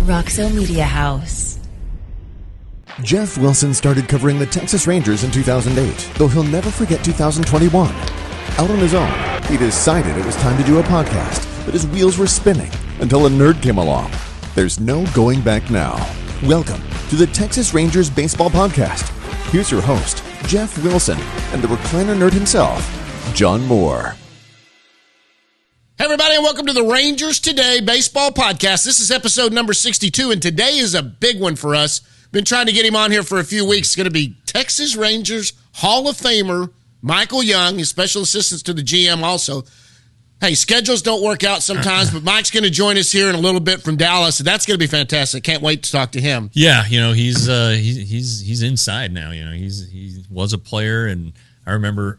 Roxo Media House. Jeff Wilson started covering the Texas Rangers in 2008, though he'll never forget 2021. Out on his own, he decided it was time to do a podcast, but his wheels were spinning until a nerd came along. There's no going back now. Welcome to the Texas Rangers Baseball Podcast. Here's your host, Jeff Wilson, and the recliner nerd himself, John Moore. Hey, everybody, and welcome to the Rangers Today Baseball Podcast. This is episode number 62, and today is a big one for us. Been trying to get him on here for a few weeks. It's going to be Texas Rangers Hall of Famer Michael Young, his special assistant to the GM also. Hey, schedules don't work out sometimes, but Mike's going to join us here in a little bit from Dallas. So that's going to be fantastic. Can't wait to talk to him. Yeah, you know, he's inside now. You know, he was a player, and I remember.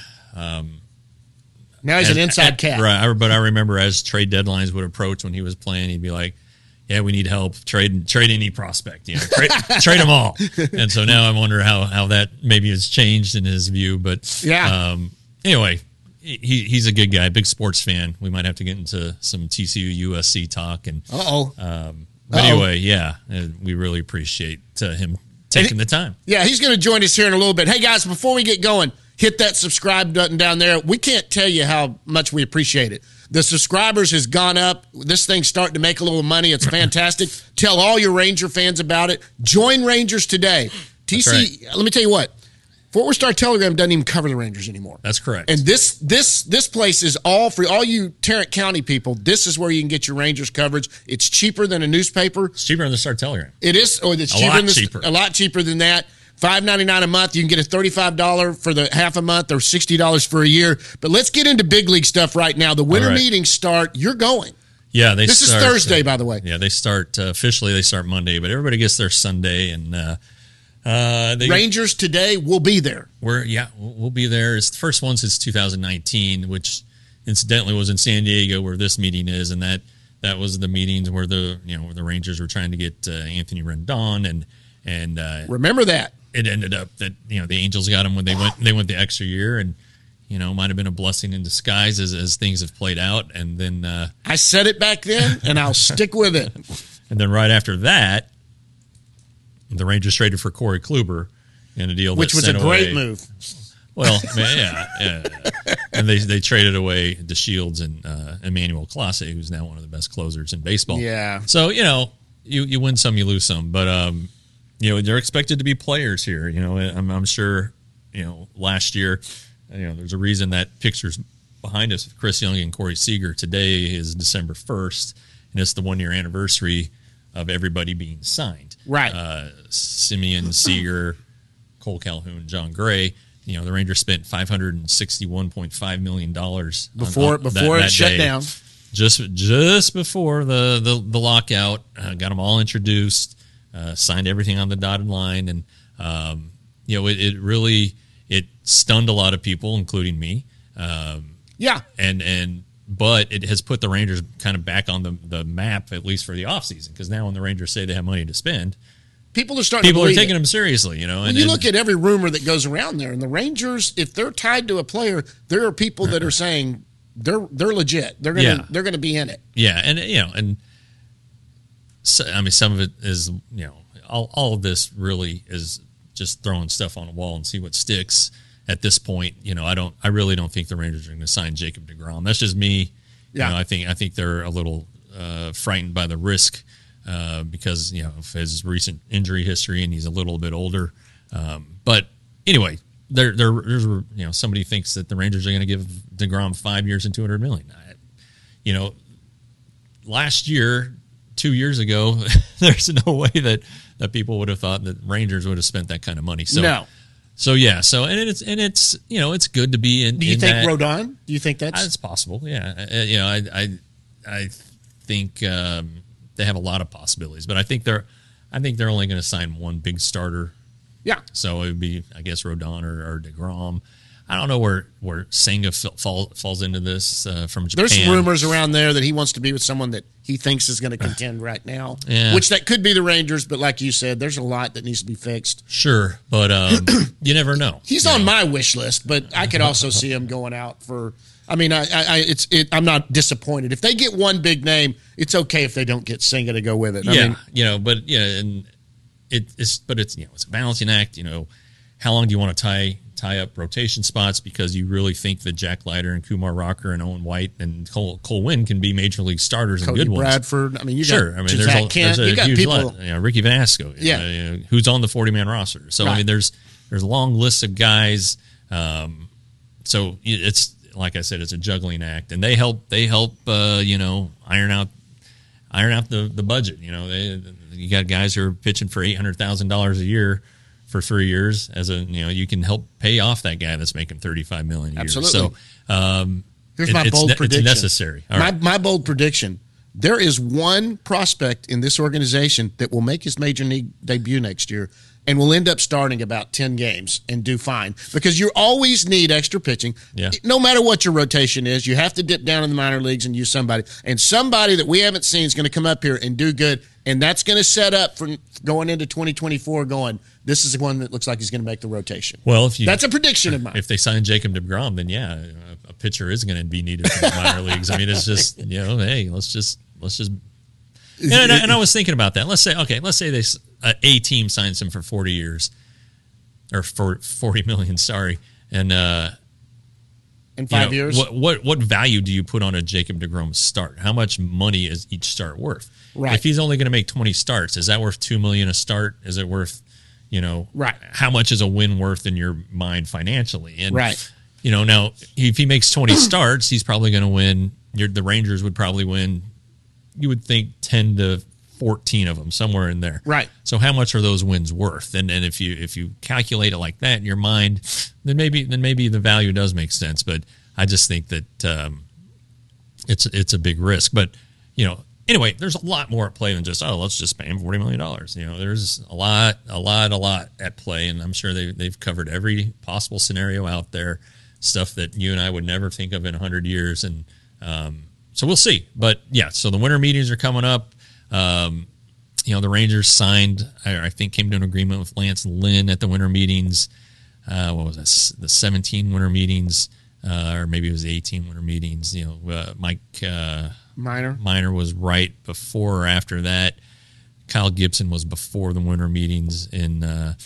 Now he's an inside cat. Right, but I remember as trade deadlines would approach when he was playing, he'd be like, yeah, we need help. Trade any prospect. You know, trade them all. And so now I wonder how that maybe has changed in his view. But yeah. Anyway, he's a good guy, big sports fan. We might have to get into some TCU USC talk. And but anyway, yeah, we really appreciate him taking the time. Yeah, he's going to join us here in a little bit. Hey guys, before we get going, hit that subscribe button down there. We can't tell you how much we appreciate it. The subscribers has gone up. This thing's starting to make a little money. It's fantastic. Tell all your Ranger fans about it. Join Rangers Today. TC, right. Let me tell you what. Fort Worth Star Telegram doesn't even cover the Rangers anymore. That's correct. And this place is all free. All you Tarrant County people, this is where you can get your Rangers coverage. It's cheaper than a newspaper. It's cheaper than the Star Telegram. It is. Or it's a lot cheaper than that. $5.99 a month. You can get a $35 for the half a month or $60 for a year. But let's get into big league stuff right now. The winter meetings start. You're going. Yeah, this is Thursday, by the way. Yeah, they start officially. They start Monday, but everybody gets their Sunday, and Rangers Today will be there. We'll be there. It's the first one since 2019, which incidentally was in San Diego, where this meeting is, and that was the meetings where the Rangers were trying to get Anthony Rendon and remember that. It ended up that the Angels got him when they went the extra year, and might have been a blessing in disguise as things have played out. And then I said it back then, and I'll stick with it. And then right after that, the Rangers traded for Corey Kluber in a deal which was a great move. Well, yeah. And they traded away DeShields and Emmanuel Clase, who's now one of the best closers in baseball. Yeah. So you win some, you lose some, but they're expected to be players here. I'm sure, last year, there's a reason that picture's behind us with Chris Young and Corey Seager. Today is December 1st, and it's the 1-year anniversary of everybody being signed. Right. Simeon, Seager, Cole Calhoun, John Gray. The Rangers spent $561.5 million before it shut down. Just before the lockout, got them all introduced. Signed everything on the dotted line, and it really stunned a lot of people, including me. But it has put the Rangers kind of back on the map, at least for the offseason, because now when the Rangers say they have money to spend, people are taking them seriously. And you look at every rumor that goes around there, and the Rangers, if they're tied to a player, there are people that are saying they're legit. They're gonna be in it. Yeah, and. So, I mean, some of it is, all of this really is just throwing stuff on a wall and see what sticks at this point. I really don't think the Rangers are going to sign Jacob deGrom. That's just me. Yeah. I think they're a little frightened by the risk because, of his recent injury history, and he's a little bit older. But anyway, there's somebody thinks that the Rangers are going to give deGrom 5 years and $200 million. Last year, 2 years ago, there's no way that people would have thought that Rangers would have spent that kind of money. So, no. So it's it's good to be in. Do you think Rodon? Do you think it's possible? Yeah. I think they have a lot of possibilities, but I think they're only going to sign one big starter. Yeah. So it would be, I guess, Rodon or deGrom. I don't know where Senga falls into this from Japan. There's rumors around there that he wants to be with someone that he thinks is going to contend right now, which that could be the Rangers. But like you said, there's a lot that needs to be fixed. Sure, but you never know. He's on my wish list, but I could also see him going out for I mean, I'm not disappointed. If they get one big name, it's okay if they don't get Senga to go with it. And it's a balancing act. How long do you want to tie up rotation spots because you really think that Jack Leiter and Kumar Rocker and Owen White and Cole Winn can be major league starters Cody and good Bradford. ones. I mean, you sure. got I mean, Kent. there's You got huge people. Ricky Vanasco. Yeah. Who's on the 40-man roster. So I mean, there's a long list of guys. So it's like I said, it's a juggling act, and they help. Iron out the budget. You got guys who are pitching for $800,000 a year for 3 years. You can help pay off that guy that's making $35 million a year. Absolutely. So here's my bold prediction. It's necessary. My bold prediction: there is one prospect in this organization that will make his major league debut next year and will end up starting about 10 games and do fine, because you always need extra pitching. Yeah. No matter what your rotation is, you have to dip down in the minor leagues and use somebody. And somebody that we haven't seen is going to come up here and do good, and that's going to set up for going into 2024 going, this is the one that looks like he's going to make the rotation. Well, that's a prediction of mine. If they sign Jacob deGrom, then a pitcher is going to be needed for the minor leagues. I mean, it's just, hey, let's just. And I was thinking about that. Let's say a team signs him for 40 years, or for $40 million. Sorry, and in 5 years, what value do you put on a Jacob deGrom start? How much money is each start worth? Right. If he's only going to make 20 starts, is that worth $2 million a start? Is it worth, right? How much is a win worth in your mind financially? And right. Now if he makes 20 starts, he's probably going to win. The Rangers would probably win. You would think 10 to 14 of them, somewhere in there. Right. So how much are those wins worth? And if you calculate it like that in your mind, then maybe the value does make sense. But I just think that it's a big risk. But anyway, there's a lot more at play than just let's just pay him $40 million. There's a lot at play, and I'm sure they've covered every possible scenario out there, stuff that you and I would never think of in 100 years, and so we'll see. But so the winter meetings are coming up. The Rangers signed, I think, came to an agreement with Lance Lynn at the winter meetings. What was that? The 17 winter meetings, or maybe it was the 18 winter meetings. Mike Minor was right before or after that. Kyle Gibson was before the winter meetings in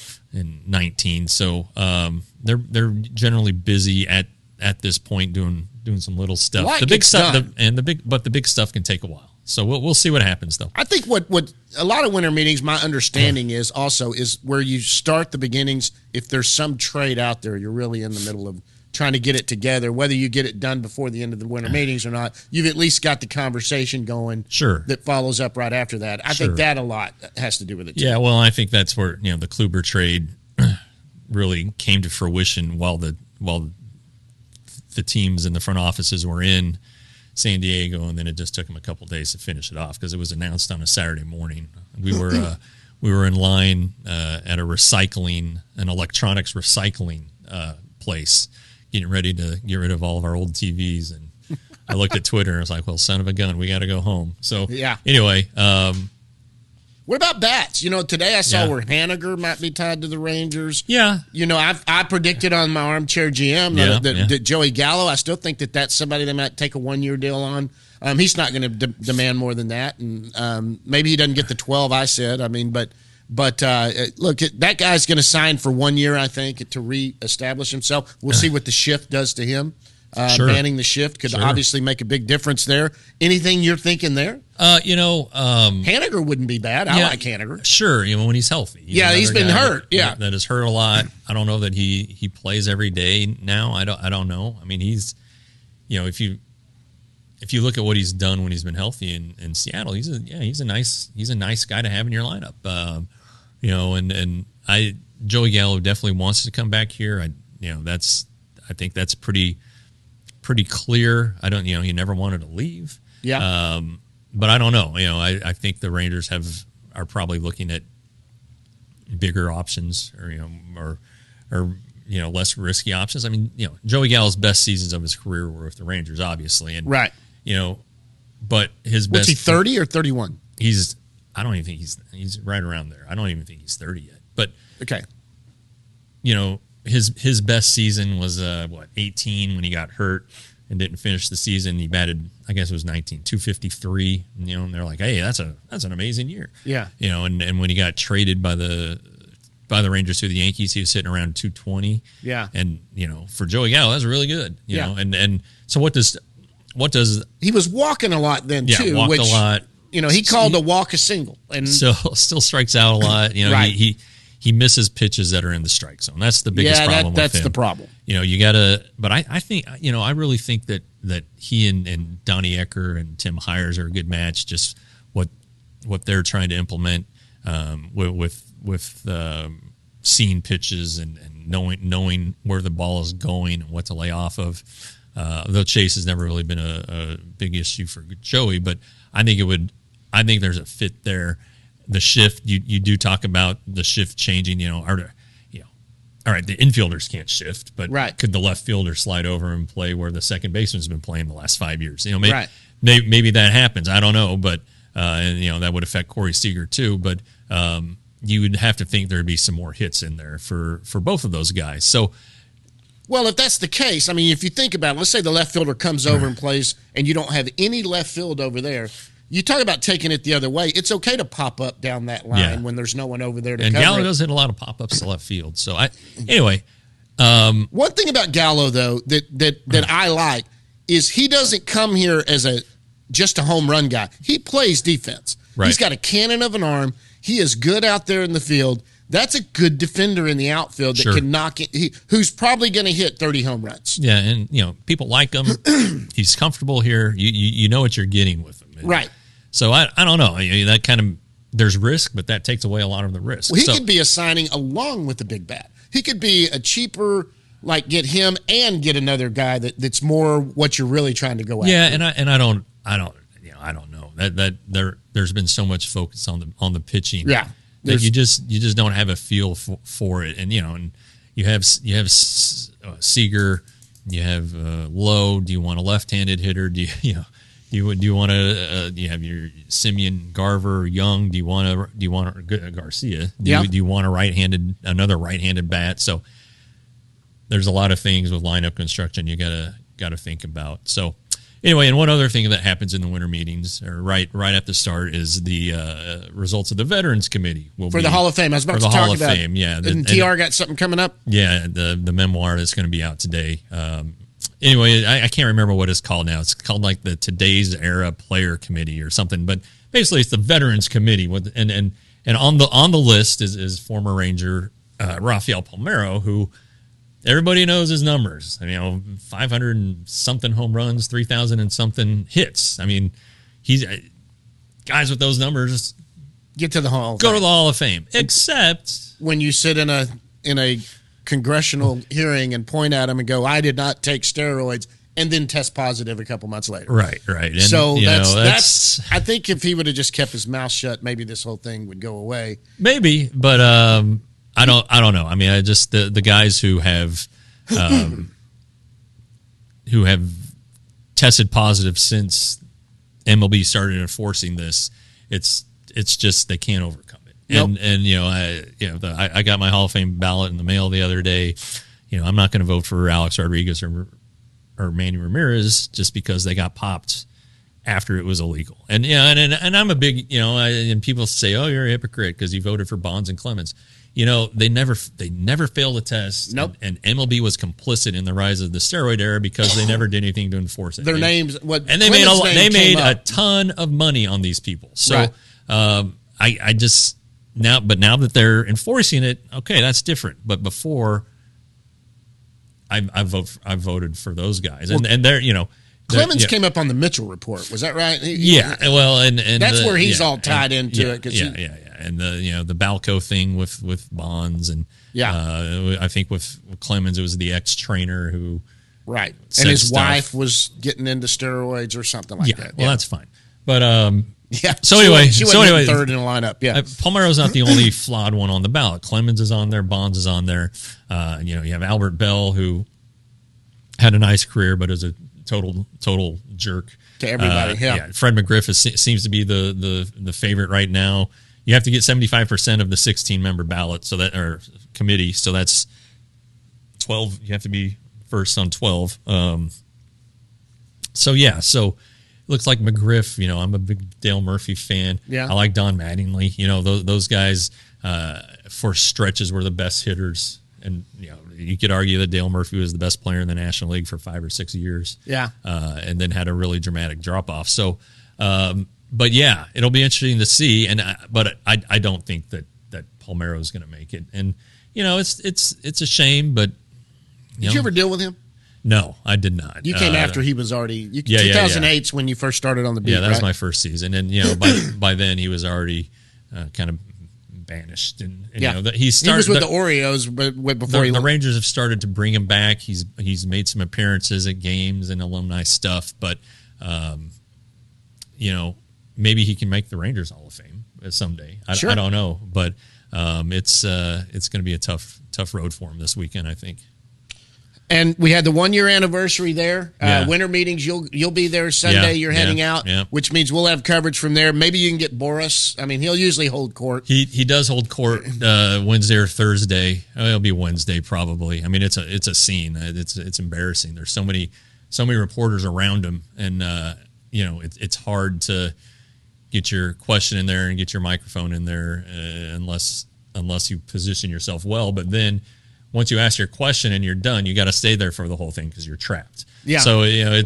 19. So they're generally busy at this point doing some little stuff. The big stuff, but the big stuff can take a while. So we'll see what happens, though. I think what a lot of winter meetings, my understanding is where you start the beginnings. If there's some trade out there, you're really in the middle of trying to get it together. Whether you get it done before the end of the winter meetings or not, you've at least got the conversation going. Sure. That follows up right after that. I think that a lot has to do with it, too. Yeah, well, I think that's where the Kluber trade really came to fruition while the teams in the front offices were in San Diego, and then it just took them a couple days to finish it off because it was announced on a Saturday morning. We were in line at an electronics recycling place, getting ready to get rid of all of our old TVs, and I looked at Twitter and I was like, "Well, son of a gun, we got to go home." So anyway. What about bats? Today I saw where Haniger might be tied to the Rangers. Yeah. I predicted on my armchair GM that Joey Gallo, I still think that that's somebody they might take a 1-year deal on. He's not going to demand more than that. And maybe he doesn't get the 12 I said. I mean, but look, that guy's going to sign for 1 year, I think, to reestablish himself. We'll see what the shift does to him. Sure. Banning the shift could obviously make a big difference there. Anything you're thinking there? Haniger wouldn't be bad. I like Haniger. Sure, when he's healthy. He's been hurt. That has hurt a lot. I don't know that he plays every day now. I don't know. I mean, he's, if you look at what he's done when he's been healthy in Seattle, he's a nice guy to have in your lineup. And Joey Gallo definitely wants to come back here. I think that's pretty clear. I don't, he never wanted to leave. Yeah. But I don't know. I think the Rangers are probably looking at bigger options, or less risky options. I mean, Joey Gallo's best seasons of his career were with the Rangers, obviously, and right. But his best. What's he, 30 or 31? I don't even think he's right around there. I don't even think he's 30 yet. But okay. His best season was 18 when he got hurt. and didn't finish the season. He batted, I guess it was 253. You know, and they're like, hey, that's an amazing year. Yeah. You know, and when he got traded by the Rangers to the Yankees, he was sitting around 220. Yeah. And, you know, for Joey Gallo, that's really good. You know, and so what does he was walking a lot then too? Walked which, a lot. You know, he called a walk a single, and still strikes out a lot. You know, Right. he misses pitches that are in the strike zone. That's the biggest problem. That's with him. the problem. You know, you gotta. But I think, you know, I really think that he and Donnie Ecker and Tim Hires are a good match. Just what they're trying to implement with seeing pitches and knowing where the ball is going and what to lay off of. Though Chase has never really been a big issue for Joey, but I think there's a fit there. The shift, you do talk about the shift changing. You know, all right, the infielders can't shift, but Right. could the left fielder slide over and play where the second baseman's been playing the last 5 years? You know, Right. maybe that happens. I don't know, but and you know that would affect Corey Seager too. But you would have to think there'd be some more hits in there for both of those guys. So. Well, if that's the case, I mean, if you think about it, let's say the left fielder comes over and plays, and you don't have any left field over there. You talk about taking it the other way. It's okay to pop up down that line when there's no one over there to and cover Gallo it. does hit a lot of pop-ups to left field. So anyway. One thing about Gallo, though, that I like is he doesn't come here as just a home run guy. He plays defense. Right. He's got a cannon of an arm. He is good out there in the field. That's a good defender in the outfield that Sure. can knock it. Who's probably going to hit 30 home runs. Yeah, and you know people like him. He's comfortable here. You know what you're getting with him, Right. So I don't know. That kind of there's risk, but that takes away a lot of the risk. Well, he So- could be a signing along with the big bat. He could be a cheaper, like get him and get another guy that's more what you're really trying to go after. Yeah, and I don't know that there's been so much focus on the pitching. Yeah. That you just don't have a feel for it, and you know, and you have Seager, you have Lowe. Do you want a left-handed hitter? Do you want to you have your Simeon, Garver, Young? Do you want Garcia? Do you want another right-handed bat? So there's a lot of things with lineup construction you gotta think about. So. Anyway, and one other thing that happens in the winter meetings, or right at the start, is the results of the Veterans Committee For the Hall of Fame. I was about to talk Hall of about Fame, yeah. And TR got something coming up? Yeah, the memoir that's going to be out today. Anyway, I can't remember what it's called now. It's called like the Today's Era Player Committee or something. But basically, it's the Veterans Committee. And on the list is former Ranger Rafael Palmeiro, who everybody knows his numbers. I mean, 500 and something home runs, 3,000 and something hits. I mean, he's guys with those numbers Get to the Hall of go Fame. to the Hall of Fame. Except When you sit in a congressional hearing and point at him and go, I did not take steroids, and then test positive a couple months later. right. And, So you know, that's I think if he would have just kept his mouth shut, maybe this whole thing would go away. maybe, but I don't know. I mean, I just the guys who have tested positive since MLB started enforcing this, it's just they can't overcome it. Nope. And you know, I got my Hall of Fame ballot in the mail the other day. You know, I'm not going to vote for Alex Rodriguez or Manny Ramirez just because they got popped after it was illegal. And yeah, and I'm a big, you know, and people say, "Oh, you're a hypocrite because you voted for Bonds and Clemens." You know, they never failed a test. Nope. And MLB was complicit in the rise of the steroid era because they never did anything to enforce it. Their And- names, and they made a ton of money on these people. So Right. I just now that they're enforcing it, okay, that's different. But before, I voted for those guys, and they're, you know, Clemens came up on the Mitchell report. Was that right? Yeah, well, and That's where he's all tied into it. Yeah, and the Balco thing with Bonds, and I think with Clemens it was the ex-trainer who right, said and his stuff. wife was getting into steroids or something like that. Well, that's fine, but yeah. So anyway, she wasn't third in the lineup. Yeah, Palmeiro's not the only flawed one on the ballot. Clemens is on there, Bonds is on there. You know, you have Albert Bell, who had a nice career, but is a total jerk to everybody. Fred McGriff seems to be the favorite right now. You have to get 75% of the 16-member ballot, so that or committee. So that's 12. You have to be first on 12. So looks like McGriff. I'm a big Dale Murphy fan. Yeah. I like Don Mattingly. Those guys for stretches were the best hitters. And you could argue that Dale Murphy was the best player in the National League for 5 or 6 years. Yeah. And then had a really dramatic drop off. So, but yeah, it'll be interesting to see. But I don't think that Palmeiro is going to make it. And it's a shame. But did you ever deal with him? No, I did not. You came after he was already. 2008's when you first started on the beat. Yeah, that was right? my first season, and by then he was already kind of banished. And he was with the Orioles, but before the Rangers have started to bring him back. He's made some appearances at games and alumni stuff, but maybe he can make the Rangers Hall of Fame someday. I don't know, but it's going to be a tough road for him this weekend, I think. And we had the 1 year anniversary there. Winter meetings, you'll be there Sunday. You're heading out, which means we'll have coverage from there. Maybe you can get Boris. I mean, he'll usually hold court. He does hold court Wednesday or Thursday. It'll be Wednesday probably. I mean, it's a scene. It's embarrassing. There's so many reporters around him, and it's hard to get your question in there and get your microphone in there unless you position yourself well. But then once you ask your question and you're done, you got to stay there for the whole thing because you're trapped. Yeah. So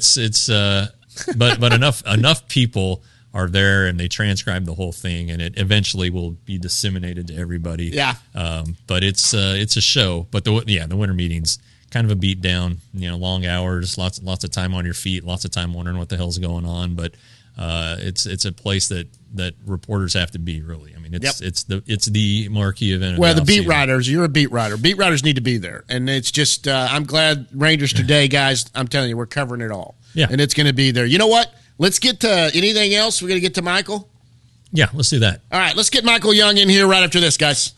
but enough people are there and they transcribe the whole thing, and it eventually will be disseminated to everybody. Yeah. But it's a show. But the winter meetings kind of a beat down. Long hours, lots of time on your feet, lots of time wondering what the hell's going on. But it's a place that reporters have to be, really. I mean, it's the marquee event. Well, the beat writers, you're a beat writer. Beat writers need to be there, and it's just I'm glad Rangers Today, guys. I'm telling you, we're covering it all. Yeah, and it's going to be there. You know what? Let's get to anything else. We're going to get to Michael. Yeah, let's do that. All right, let's get Michael Young in here right after this, guys.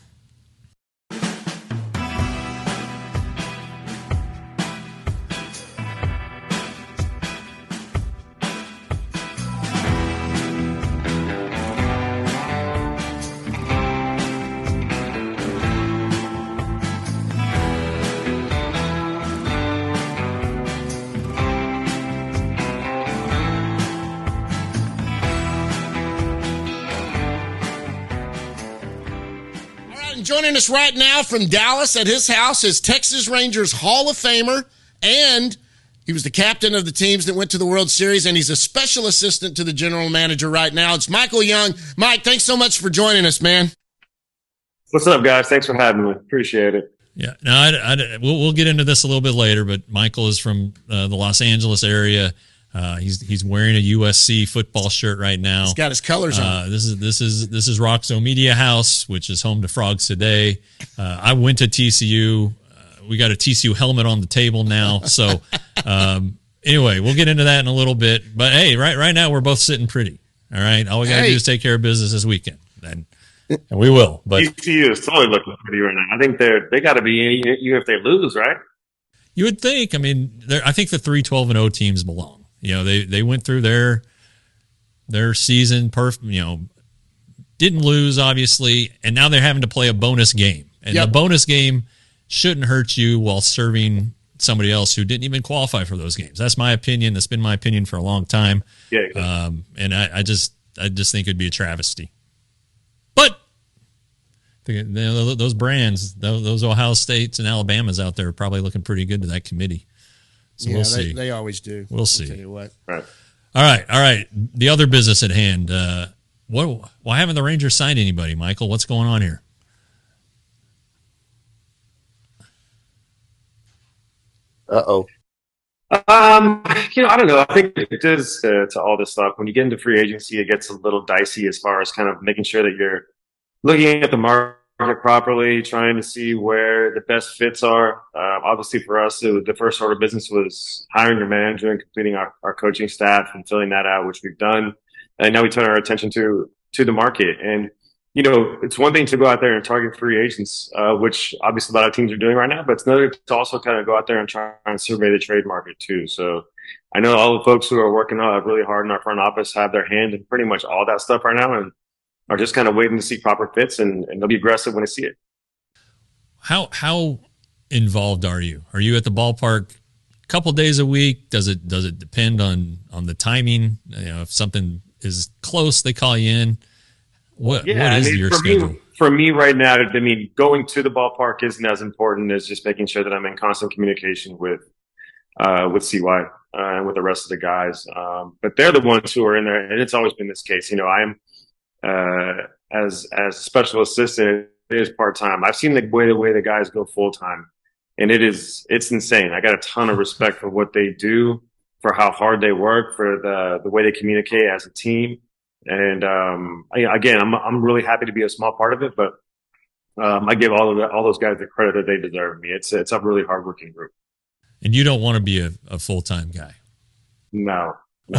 Joining us right now from Dallas at his house is Texas Rangers Hall of Famer, and he was the captain of the teams that went to the World Series, and he's a special assistant to the general manager right now. It's Michael Young. Mike, thanks so much for joining us, man. What's up, guys? Thanks for having me. Appreciate it. Yeah, no, we'll get into this a little bit later, but Michael is from the Los Angeles area. He's wearing a USC football shirt right now. He's got his colors on. This is Roxo Media House, which is home to Frogs Today. I went to TCU. We got a TCU helmet on the table now. So anyway, we'll get into that in a little bit. But hey, right now we're both sitting pretty. All right, all we got to do is take care of business this weekend, and we will. But TCU is totally looking pretty right now. I think they got to be even if they lose, right? You would think. I mean, I think the 3 12-0 teams belong. They went through their season perfect. Didn't lose obviously, and now they're having to play a bonus game, and the bonus game shouldn't hurt you while serving somebody else who didn't even qualify for those games. That's my opinion. That's been my opinion for a long time. Yeah. Exactly. And I just think it'd be a travesty. But those brands, those Ohio States and Alabamas out there are probably looking pretty good to that committee. So we'll see. They always do. We'll see. I'll tell you what. Right. All right. The other business at hand. Why haven't the Rangers signed anybody, Michael? What's going on here? Uh-oh. I don't know. I think it is to all this stuff. When you get into free agency, it gets a little dicey as far as kind of making sure that you're looking at the market properly, trying to see where the best fits are. Obviously for us, the first order of business was hiring your manager and completing our coaching staff and filling that out, which we've done. And now we turn our attention to the market. And, it's one thing to go out there and target free agents, which obviously a lot of teams are doing right now, but it's another to also kind of go out there and try and survey the trade market too. So I know all the folks who are working really hard in our front office have their hand in pretty much all that stuff right now, and are just kind of waiting to see proper fits, and they'll be aggressive when they see it. How involved are you? Are you at the ballpark couple days a week? Does it depend on the timing? If something is close, they call you in. What is your schedule? For me right now, I mean, going to the ballpark isn't as important as just making sure that I'm in constant communication with CY and with the rest of the guys. But they're the ones who are in there, and it's always been this case. I'm as a special assistant, it is part time. I've seen the way the guys go full time, and it's insane. I got a ton of respect for what they do, for how hard they work, for the way they communicate as a team. And again, I'm really happy to be a small part of it, but I give all those guys the credit that they deserve. It's a really hardworking group. And you don't want to be a full-time guy. No.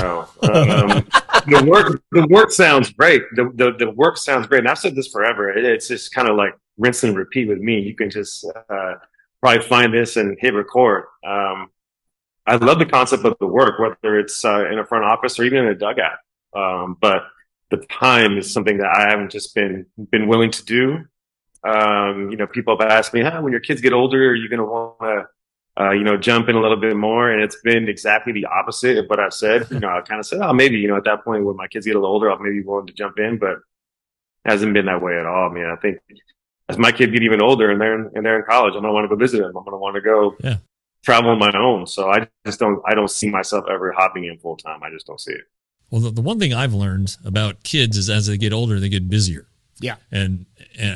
The work sounds great. The work sounds great. And I've said this forever. It's just kind of like rinse and repeat with me. You can just probably find this and hit record. I love the concept of the work, whether it's in a front office or even in a dugout. But the time is something that I haven't just been willing to do. People have asked me, when your kids get older, are you going to want to, jump in a little bit more? And it's been exactly the opposite of what I've said. I kind of said, maybe, at that point when my kids get a little older, I'll maybe be willing to jump in, but it hasn't been that way at all. I think as my kids get even older and they're in college, I'm going to want to go visit them. I'm going to want to go travel on my own. So I don't see myself ever hopping in full time. I just don't see it. Well, the one thing I've learned about kids is as they get older, they get busier. Yeah. And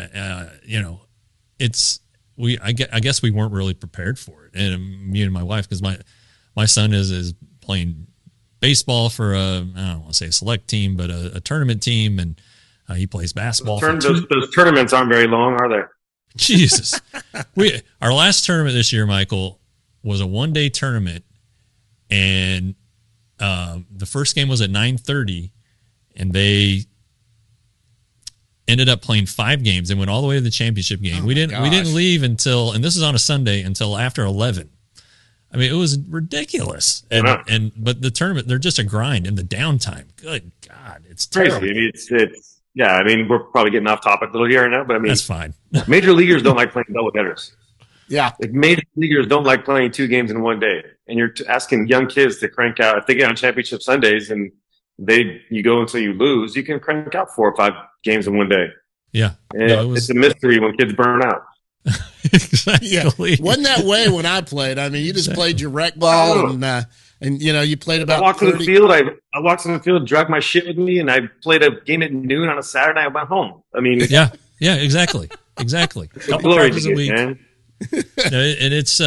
I guess we weren't really prepared for it. And me and my wife, because my son is playing baseball for I don't want to say a select team, but a tournament team. And he plays basketball. Those tournaments aren't very long, are they? Jesus. Our last tournament this year, Michael, was a 1-day tournament. And the first game was at 9:30, and they ended up playing 5 games and went all the way to the championship game. We didn't leave until, and this is on a Sunday, until after 11. I mean, it was ridiculous. But the tournament, they're just a grind, and the downtime. Good God, it's terrible. Crazy. We're probably getting off topic a little here right now, but that's fine. Major leaguers don't like playing doubleheaders. Yeah. Major leaguers don't like playing 2 games in 1 day. And you're asking young kids to crank out, if they get on championship Sundays and you go until you lose, you can crank out 4 or 5 games in 1 day. Yeah. It's a mystery when kids burn out. Exactly. Yeah. Wasn't that way when I played? You just played your rec ball and you played about I walked 30. in the field. I walked in the field, dragged my shit with me, and I played a game at noon on a Saturday. I went home. Yeah, exactly. A couple practices a week. Man. And it's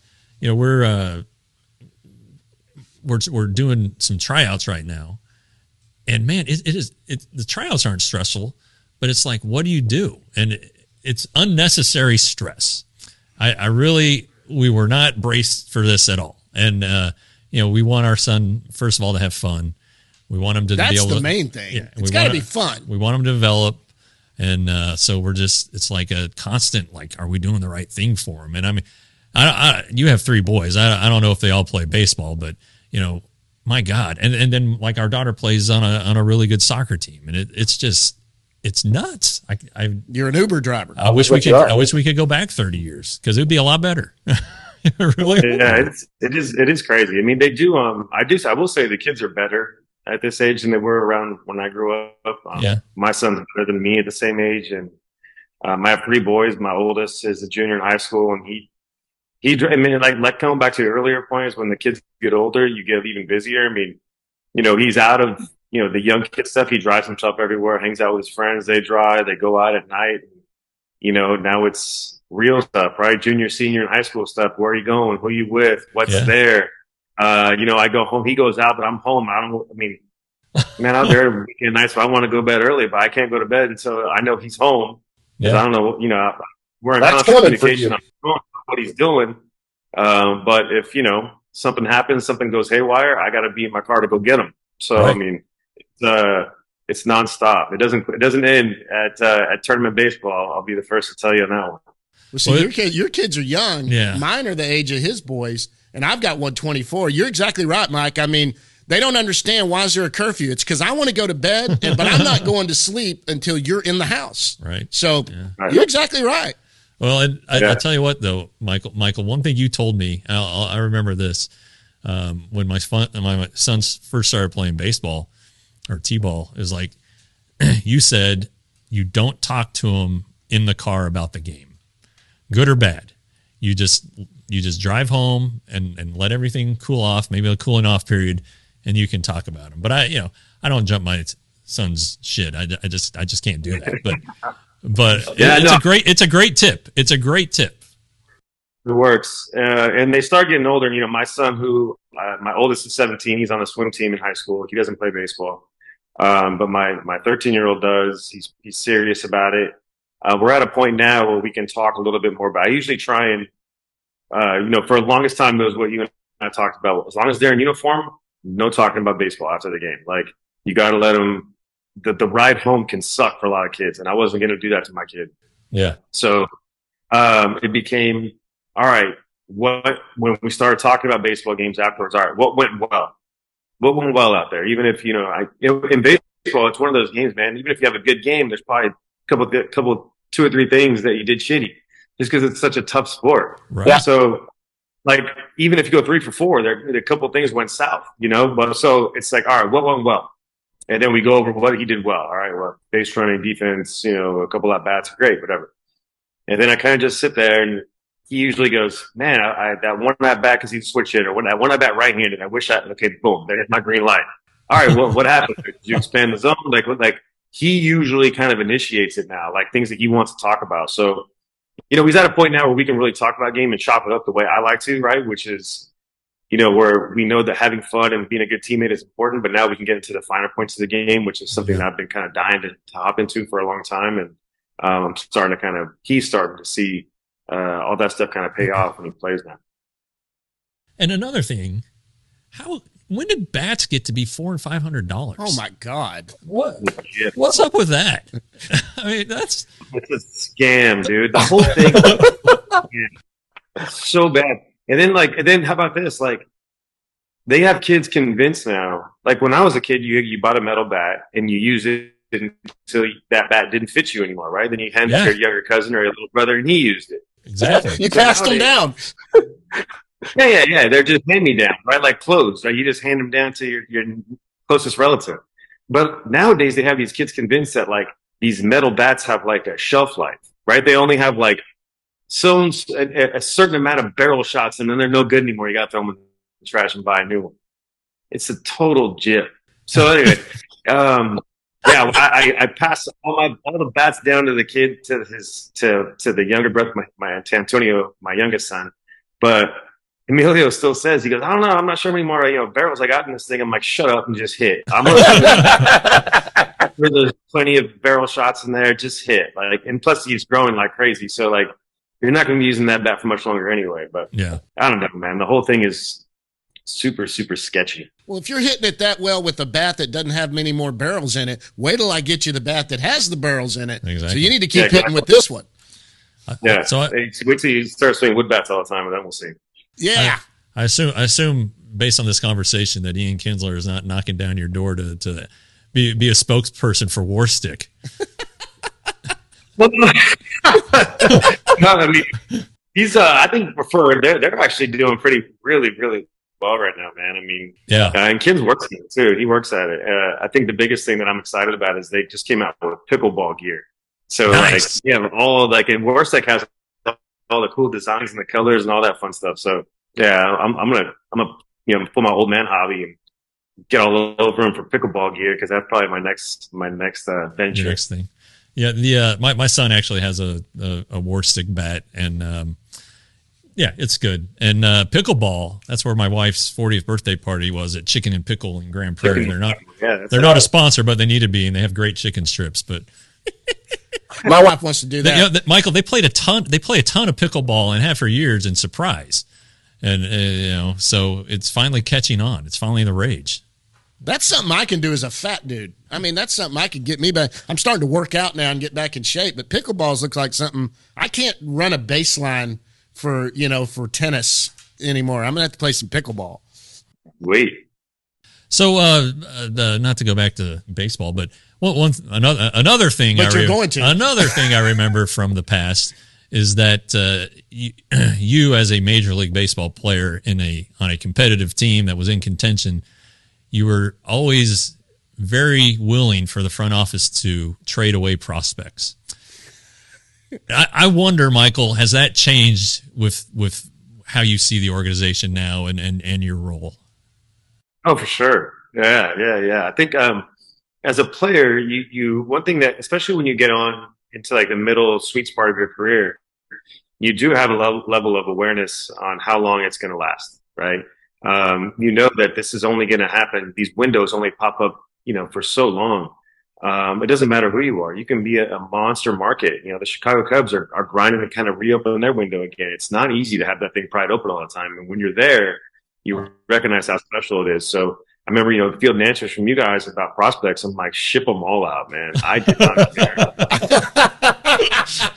we're doing some tryouts right now, and man, the tryouts aren't stressful, but it's like, what do you do? And it's unnecessary stress. We were not braced for this at all, and we want our son, first of all, to have fun. We want him to be able to. That's the main thing. Yeah, it's got to be fun. We want him to develop. And so it's like a constant, like, are we doing the right thing for him? And you have 3 boys. I don't know if they all play baseball, but my God. And then like our daughter plays on a really good soccer team, and it's nuts. You're an Uber driver. I wish we could go back 30 years because it would be a lot better. Really? Yeah, it is crazy. They do. I will say the kids are better at this age than they were around when I grew up. My son's better than me at the same age. And I have 3 boys. My oldest is a junior in high school, and like coming back to the earlier points, when the kids get older, you get even busier. He's out of, the young kid stuff. He drives himself everywhere, hangs out with his friends. They drive, they go out at night. Now it's real stuff, right? Junior, senior in high school stuff. Where are you going? Who are you with? What's there? I go home, he goes out, but I'm home. Man, out there every weekend night, so I want to go to bed early, but I can't go to bed until I know he's home. Yeah. I don't know, we're in constant communication on what he's doing. But if, something happens, something goes haywire, I got to be in my car to go get him. So, right. It's nonstop. It doesn't end at tournament baseball. I'll be the first to tell you on that one. Well, see, your kids are young. Yeah. Mine are the age of his boys, and I've got one 24. You're exactly right, Mike. They don't understand why is there a curfew. It's because I want to go to bed, but I'm not going to sleep until you're in the house. Right. So you're exactly right. Well, and I tell you what, though, Michael, one thing you told me, I remember this, when my sons first started playing baseball or t-ball, is like, you said you don't talk to them in the car about the game, good or bad. You just drive home and let everything cool off, maybe a cooling off period, and you can talk about them. But I don't jump my son's shit. I just can't do that. But it's a great tip. It's a great tip. It works. And they start getting older. And, my son, who my oldest is 17, he's on the swim team in high school. He doesn't play baseball. But my 13-year-old does. He's serious about it. We're at a point now where we can talk a little bit more about it. I usually try and, for the longest time, it was what you and I talked about. As long as they're in uniform, no talking about baseball after the game. Like, you got to let them, the ride home can suck for a lot of kids. And I wasn't going to do that to my kid. Yeah. So, it became, all right, when we started talking about baseball games afterwards, all right, what went well? What went well out there? Even if, in baseball, it's one of those games, man. Even if you have a good game, there's probably a couple, 2 or 3 things that you did shitty just because it's such a tough sport. Right. Yeah. So, like, even if you go 3 for 4, there a couple of things went south, but so it's like, all right, what went well? And then we go over what he did well. All right, well, base running, defense, a couple at bats, great, whatever. And then I kind of just sit there, and he usually goes, man, that one at bat because he's a switch hitter, that one at bat right-handed. I wish okay, boom, there's my green light. All right, what happened? Did you expand the zone? Like he usually kind of initiates it now, like things that he wants to talk about. So, he's at a point now where we can really talk about game and chop it up the way I like to, right? Which is, where we know that having fun and being a good teammate is important, but now we can get into the finer points of the game, which is something that I've been kind of dying to hop into for a long time. And he's starting to see all that stuff kind of pay off when he plays now. And another thing, when did bats get to be $400 and $500? Oh my God! What's up with that? I mean, it's a scam, dude. The whole thing, it's so bad. And then how about this? Like, they have kids convinced now. Like, when I was a kid, you bought a metal bat and you use it until that bat didn't fit you anymore, right? Then you hand it to your younger cousin or your little brother, and he used it. Exactly. You passed them down. Yeah. They're just hand me down, right? Like clothes, right? You just hand them down to your closest relative. But nowadays they have these kids convinced that like these metal bats have like a shelf life, right? They only have like a certain amount of barrel shots, and then they're no good anymore. You got to throw them in the trash and buy a new one. It's a total jip. So anyway, I pass all the bats down to the kid, to the younger brother, to Antonio, my youngest son. But Emilio still says, he goes, I don't know, I'm not sure how many more barrels I got in this thing. I'm like, shut up and just hit. There's plenty of barrel shots in there. Just hit. And plus he's growing like crazy. So like, you're not going to be using that bat for much longer anyway. But yeah, I don't know, man. The whole thing is super, super sketchy. Well, if you're hitting it that well with a bat that doesn't have many more barrels in it, wait till I get you the bat that has the barrels in it. Exactly. So you need to keep hitting with this one. Yeah. So wait till you start swinging wood bats all the time, and then we'll see. Yeah. I assume based on this conversation that Ian Kinsler is not knocking down your door to be a spokesperson for War Stick. No, I mean, he's I think they're actually doing really, really well right now, man. I mean, yeah. And Kim's works at it too. He works at it. I think the biggest thing that I'm excited about is they just came out with pickleball gear. So nice. and War Stick has all the cool designs and the colors and all that fun stuff. So yeah, I'm gonna pull my old man hobby and get all over him for pickleball gear, because that's probably my next venture. Your next thing. Yeah, my son actually has a War Stick bat, and yeah, it's good. And pickleball, that's where my wife's 40th birthday party was, at Chicken and Pickle in Grand Prairie. They're not a sponsor, but they need to be, and they have great chicken strips. But my wife wants to do that. Michael, they play a ton of pickleball and have for years in Surprise, and so it's finally catching on. It's finally the rage. That's something I can do as a fat dude. I mean, that's something I could get me back. I'm starting to work out now and get back in shape, but pickleballs looks like something I can't run a baseline for tennis anymore. I'm gonna have to play some pickleball. Wait. So, not to go back to baseball, but another thing. But you're going to. Another thing I remember from the past is that you as a Major League Baseball player on a competitive team that was in contention, you were always very willing for the front office to trade away prospects. I wonder, Michael, has that changed with how you see the organization now and your role? Oh, for sure. Yeah. I think as a player, you one thing that, especially when you get on into like the middle sweet spot of your career, you do have a level of awareness on how long it's going to last, right? You know that this is only going to happen. These windows only pop up, for so long. It doesn't matter who you are. You can be a monster market. The Chicago Cubs are grinding to kind of reopen their window again. It's not easy to have that thing pried open all the time. And when you're there, you recognize how special it is. So I remember, fielding answers from you guys about prospects. I'm like, ship them all out, man. I did not care.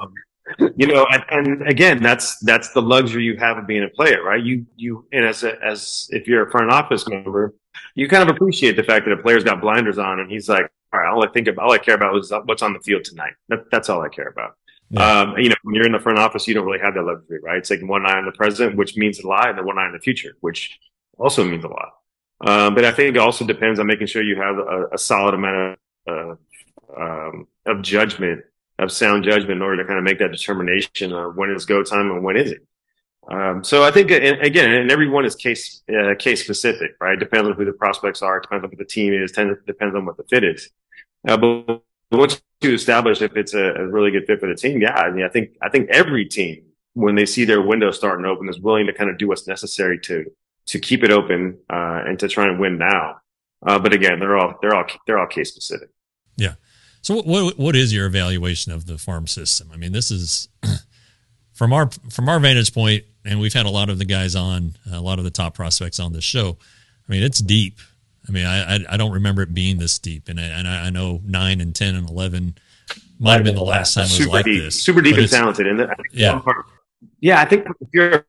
And again, that's the luxury you have of being a player, right? And as if you're a front office member, you kind of appreciate the fact that a player's got blinders on and he's like, all right, all I care about is what's on the field tonight. That's all I care about. Yeah. When you're in the front office, you don't really have that luxury, right? It's like one eye on the present, which means a lot, and then one eye on the future, which also means a lot. But I think it also depends on making sure you have a solid amount of judgment, of sound judgment, in order to kind of make that determination of when it's go time and when isn't. So I think, and everyone is case specific, right? Depends on who the prospects are, depends on who the team is, depends on what the fit is. But once you establish if it's a really good fit for the team, yeah, I think every team, when they see their window starting to open, is willing to kind of do what's necessary to keep it open and to try and win now. But again, they're all case specific. Yeah. So what is your evaluation of the farm system? I mean, this is from our vantage point, and we've had a lot of the guys on, a lot of the top prospects on this show. I mean, it's deep. I mean, I don't remember it being this deep, and I know 9 and 10 and 11 might have been the last time it was like deep, this. Super deep and talented, and I think if you're.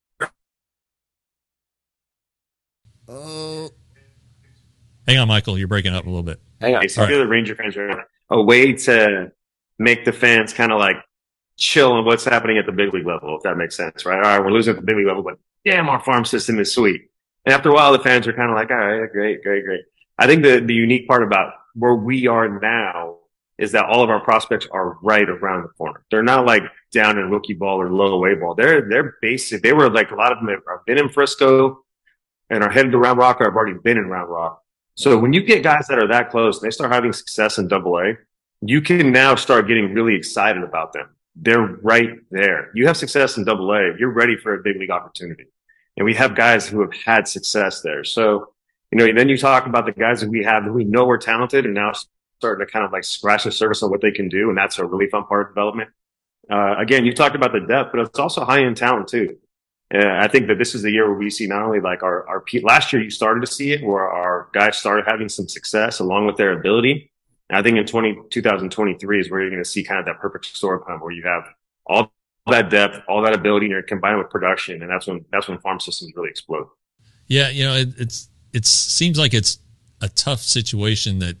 Hang on, Michael, you're breaking up a little bit. Hang on. So if you're the Ranger fans, a way to make the fans kind of like chill on what's happening at the big league level, if that makes sense, right? All right, we're losing at the big league level, but damn, our farm system is sweet. And after a while, the fans are kind of like, all right, great. I think the unique part about where we are now is that all of our prospects are right around the corner. They're not like down in rookie ball or low A ball. They're basic. They were like, a lot of them have been in Frisco and are headed to Round Rock, or have already been in Round Rock. So when you get guys that are that close and they start having success in Double A, you can now start getting really excited about them. They're right there. You have success in Double A, you're ready for a big league opportunity. And we have guys who have had success there. So, then you talk about the guys that we have who we know are talented and now starting to kind of like scratch the surface on what they can do. And that's a really fun part of development. Again, you talked about the depth, but it's also high end talent too. I think that this is the year where we see not only like our last year, you started to see it where our guys started having some success along with their ability. And I think in 2023 is where you're going to see kind of that perfect storm where you have all that depth, all that ability, and you're combined with production. And that's when farm systems really explode. Yeah. It seems like it's a tough situation that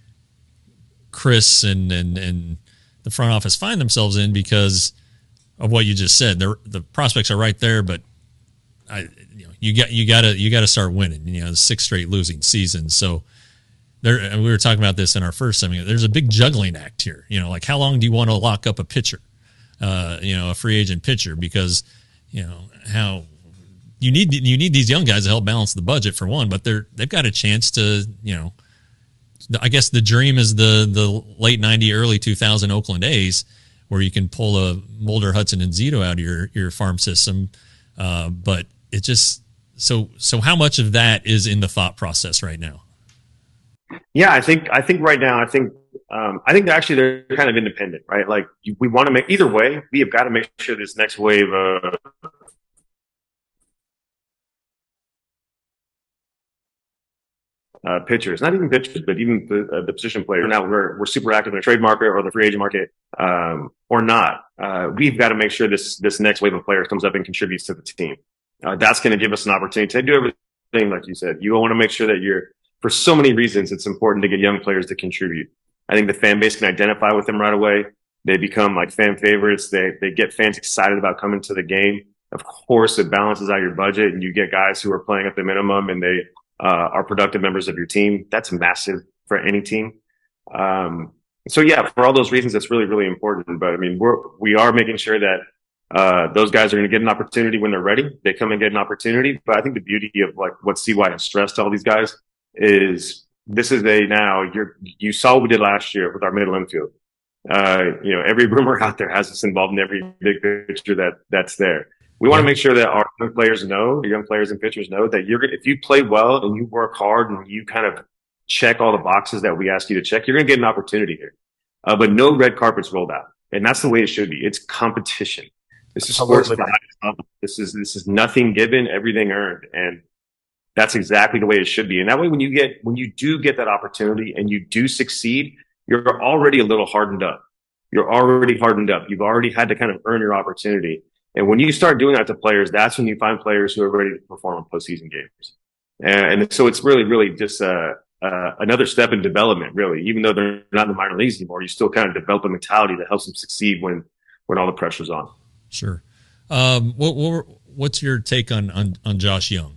Chris and the front office find themselves in because of what you just said. The prospects are right there, but you got to start winning. The 6 straight losing seasons. So and we were talking about this in our first segment. There's a big juggling act here. Like how long do you want to lock up a pitcher? A free agent pitcher, because how you need these young guys to help balance the budget for one, but they've got a chance to I guess the dream is the late 90, early 2000 Oakland A's, where you can pull a Mulder, Hudson, and Zito out of your farm system. But it just, so how much of that is in the thought process right now? Yeah, I think right now, I think actually they're kind of independent, right? Like we want to make, either way, we have got to make sure this next wave of pitchers, not even pitchers, but even the position players. Now we're super active in the trade market or the free agent market, or not. We've got to make sure this next wave of players comes up and contributes to the team. That's going to give us an opportunity to do everything, like you said. You want to make sure that for so many reasons, it's important to get young players to contribute. I think the fan base can identify with them right away. They become like fan favorites. They get fans excited about coming to the game. Of course, it balances out your budget, and you get guys who are playing at the minimum, and they are productive members of your team. That's massive for any team. So yeah, for all those reasons, it's really, really important. But I mean, we are making sure that those guys are going to get an opportunity when they're ready. They come and get an opportunity. But I think the beauty of like what CY has stressed to all these guys is this is you saw what we did last year with our middle infield. Every rumor out there has us involved in every big picture that's there. We want to make sure that our young players know, the young players and pitchers know that if you play well and you work hard and you kind of check all the boxes that we ask you to check, you're going to get an opportunity here. But no red carpets rolled out. And that's the way it should be. It's competition. This is sports at the highest level. This is nothing given, everything earned. And that's exactly the way it should be. And that way, when you do get that opportunity and you do succeed, you're already a little hardened up. You're already hardened up. You've already had to kind of earn your opportunity. And when you start doing that to players, that's when you find players who are ready to perform in postseason games. And so it's really, really just another step in development, really. Even though they're not in the minor leagues anymore, you still kind of develop a mentality that helps them succeed when all the pressure's on. Sure. What's your take on Josh Jung?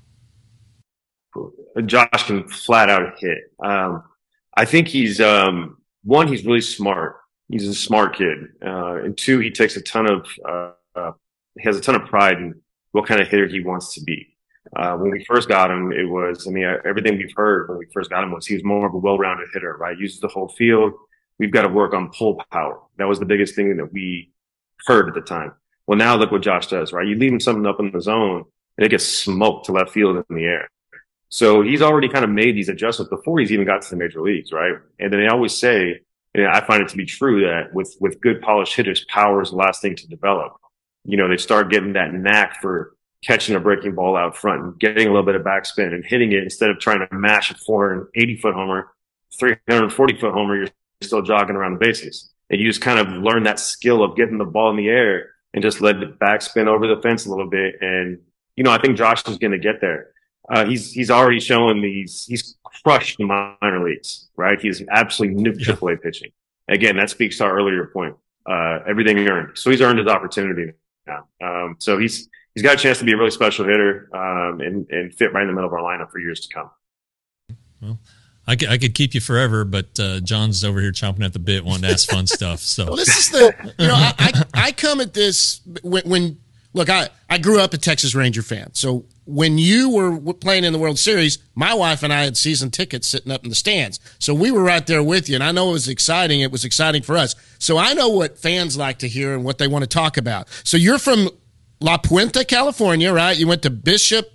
Josh can flat out hit. I think he's really smart. He's a smart kid. And two, he takes he has a ton of pride in what kind of hitter he wants to be. When we first got him, everything we've heard when we first got him was he was more of a well-rounded hitter, right? Uses the whole field. We've got to work on pull power. That was the biggest thing that we heard at the time. Well, now look what Josh does, right? You leave him something up in the zone and it gets smoked to left field in the air. So he's already kind of made these adjustments before he's even got to the major leagues, right? And then they always say, I find it to be true that with good polished hitters, power is the last thing to develop. They start getting that knack for catching a breaking ball out front and getting a little bit of backspin and hitting it instead of trying to mash a 480-foot homer, 340-foot homer, you're still jogging around the bases. And you just kind of learn that skill of getting the ball in the air and just let it backspin over the fence a little bit. And, I think Josh is going to get there. He's already shown he's crushed the minor leagues, right? He's absolutely nuked AAA pitching. Again, that speaks to our earlier point. Everything earned. So he's earned his opportunity now. So he's got a chance to be a really special hitter, and fit right in the middle of our lineup for years to come. Well, I could keep you forever, but John's over here chomping at the bit, wanting to ask fun stuff. So well, this is I come at this when look, I grew up a Texas Ranger fan. So when you were playing in the World Series, my wife and I had season tickets sitting up in the stands. So we were right there with you, and I know it was exciting. It was exciting for us. So I know what fans like to hear and what they want to talk about. So you're from La Puente, California, right? You went to Bishop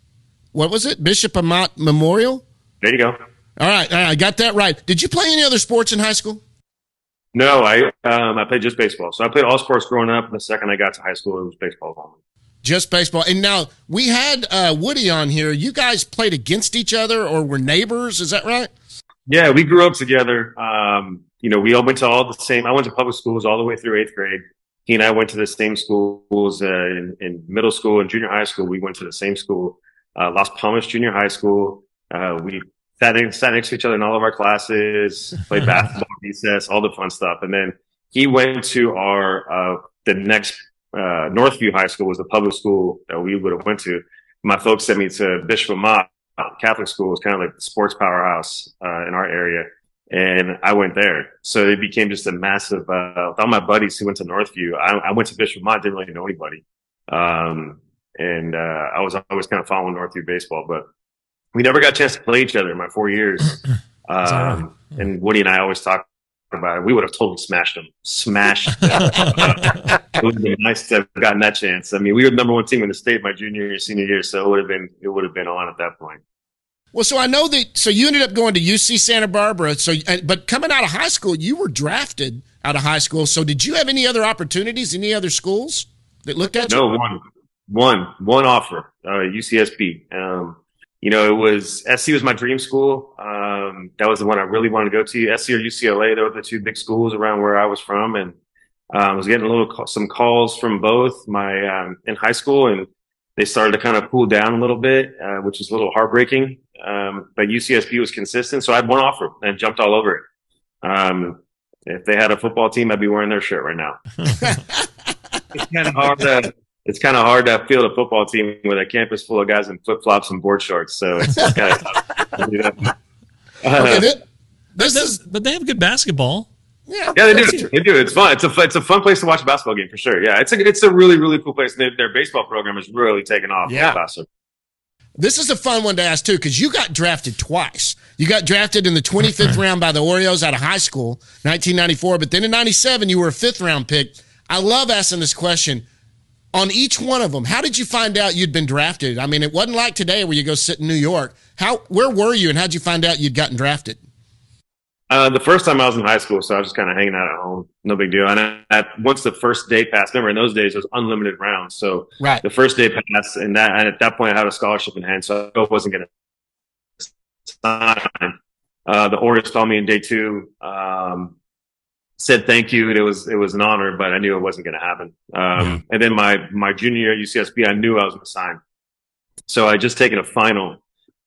Amat Memorial? There you go. All right, I got that right. Did you play any other sports in high school? No, I played just baseball. So I played all sports growing up, and the second I got to high school, it was baseball only. Just baseball. And now we had Woody on here. You guys played against each other or were neighbors. Is that right? Yeah, we grew up together. We all went to all the same. I went to public schools all the way through 8th grade. He and I went to the same schools in middle school and junior high school. We went to the same school, Las Palmas Junior High School. We sat next to each other in all of our classes, played basketball, recess, all the fun stuff. And then he went to the next Northview High School was the public school that we would have went to. My folks sent me to Bishop Amat Catholic School. It was kind of like the sports powerhouse in our area. And I went there. So it became just a massive, with all my buddies who went to Northview, I went to Bishop Amat, didn't really know anybody. I was always kind of following Northview baseball, but we never got a chance to play each other in my 4 years. And Woody and I always talk about it. We would have totally smashed them. It would have been nice to have gotten that chance. I mean, we were the number one team in the state my junior year, senior year, so it would have been on at that point. Well, so I know that. So you ended up going to UC Santa Barbara. So, but coming out of high school, you were drafted out of high school. So, did you have any other opportunities? Any other schools that looked at you? No, one offer. UCSB. It was SC was my dream school. That was the one I really wanted to go to. SC or UCLA. They were the two big schools around where I was from, and I was getting some calls from both in high school, and they started to kind of cool down a little bit, which was a little heartbreaking. But UCSB was consistent, so I had one offer and jumped all over it. If they had a football team, I'd be wearing their shirt right now. It's kind of hard to field a football team with a campus full of guys in flip flops and board shorts. So it's kind of tough. But they have good basketball. Yeah, they do. They do. It's fun. It's a fun place to watch a basketball game for sure. Yeah, it's a really, really cool place. Their baseball program has really taken off. Yeah. This is a fun one to ask, too, because you got drafted twice. You got drafted in the 25th round by the Orioles out of high school, 1994. But then in 97, you were a fifth-round pick. I love asking this question. On each one of them, how did you find out you'd been drafted? I mean, it wasn't like today where you go sit in New York. Where were you, and how did you find out you'd gotten drafted? The first time I was in high school, so I was just kind of hanging out at home. No big deal. And once the first day passed, remember in those days it was unlimited rounds. So right. The first day passed, and at that point I had a scholarship in hand, so I wasn't going to sign. The Orioles called me in day 2, said thank you. And it was an honor, but I knew it wasn't going to happen. And then my junior year at UCSB, I knew I was going to sign. So I just taken a final.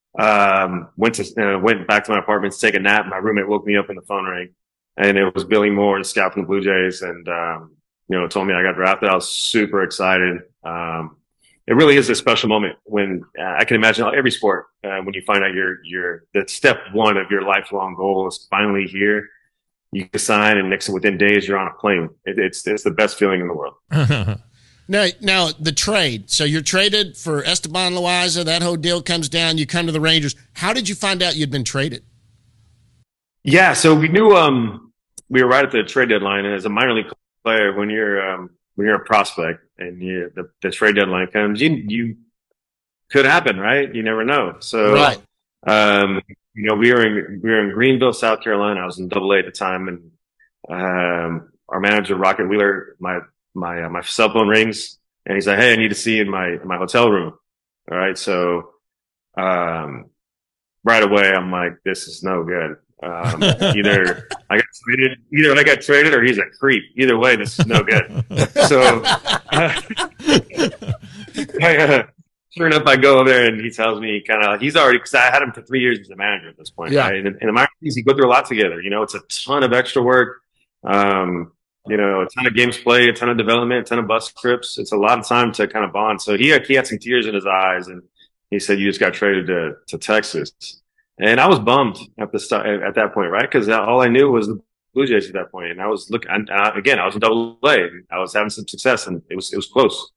Went back to my apartment to take a nap. My roommate woke me up and the phone rang, and it was Billy Moore, the scout from the Blue Jays, and told me I got drafted. I was super excited. It really is a special moment when I can imagine every sport when you find out that step one of your lifelong goal is finally here. You can sign, and within days you're on a plane. It's the best feeling in the world. Now, the trade. So you're traded for Esteban Loaiza. That whole deal comes down. You come to the Rangers. How did you find out you'd been traded? Yeah, so we knew we were right at the trade deadline. And as a minor league player, when you're a prospect and the trade deadline comes, you could happen, right? You never know. So, right. we were in Greenville, South Carolina. I was in Double-A at the time, and our manager, Rocket Wheeler, my cell phone rings, and he's like, "Hey, I need to see you in my hotel room." All right. So, right away, I'm like, this is no good. Either I got traded or he's a creep. Either way, this is no good. So, sure enough, I go over there and he tells me he's already, cause I had him for 3 years as a manager at this point. Yeah. Right? And in the minor leagues, you go through a lot together. It's a ton of extra work. A ton of games played, a ton of development, a ton of bus trips. It's a lot of time to kind of bond. So he had some tears in his eyes, and he said, "You just got traded to Texas." And I was bummed at at that point, right? Because all I knew was the Blue Jays at that point. And I was looking, again, I was in Double-A. I was having some success, and it was close.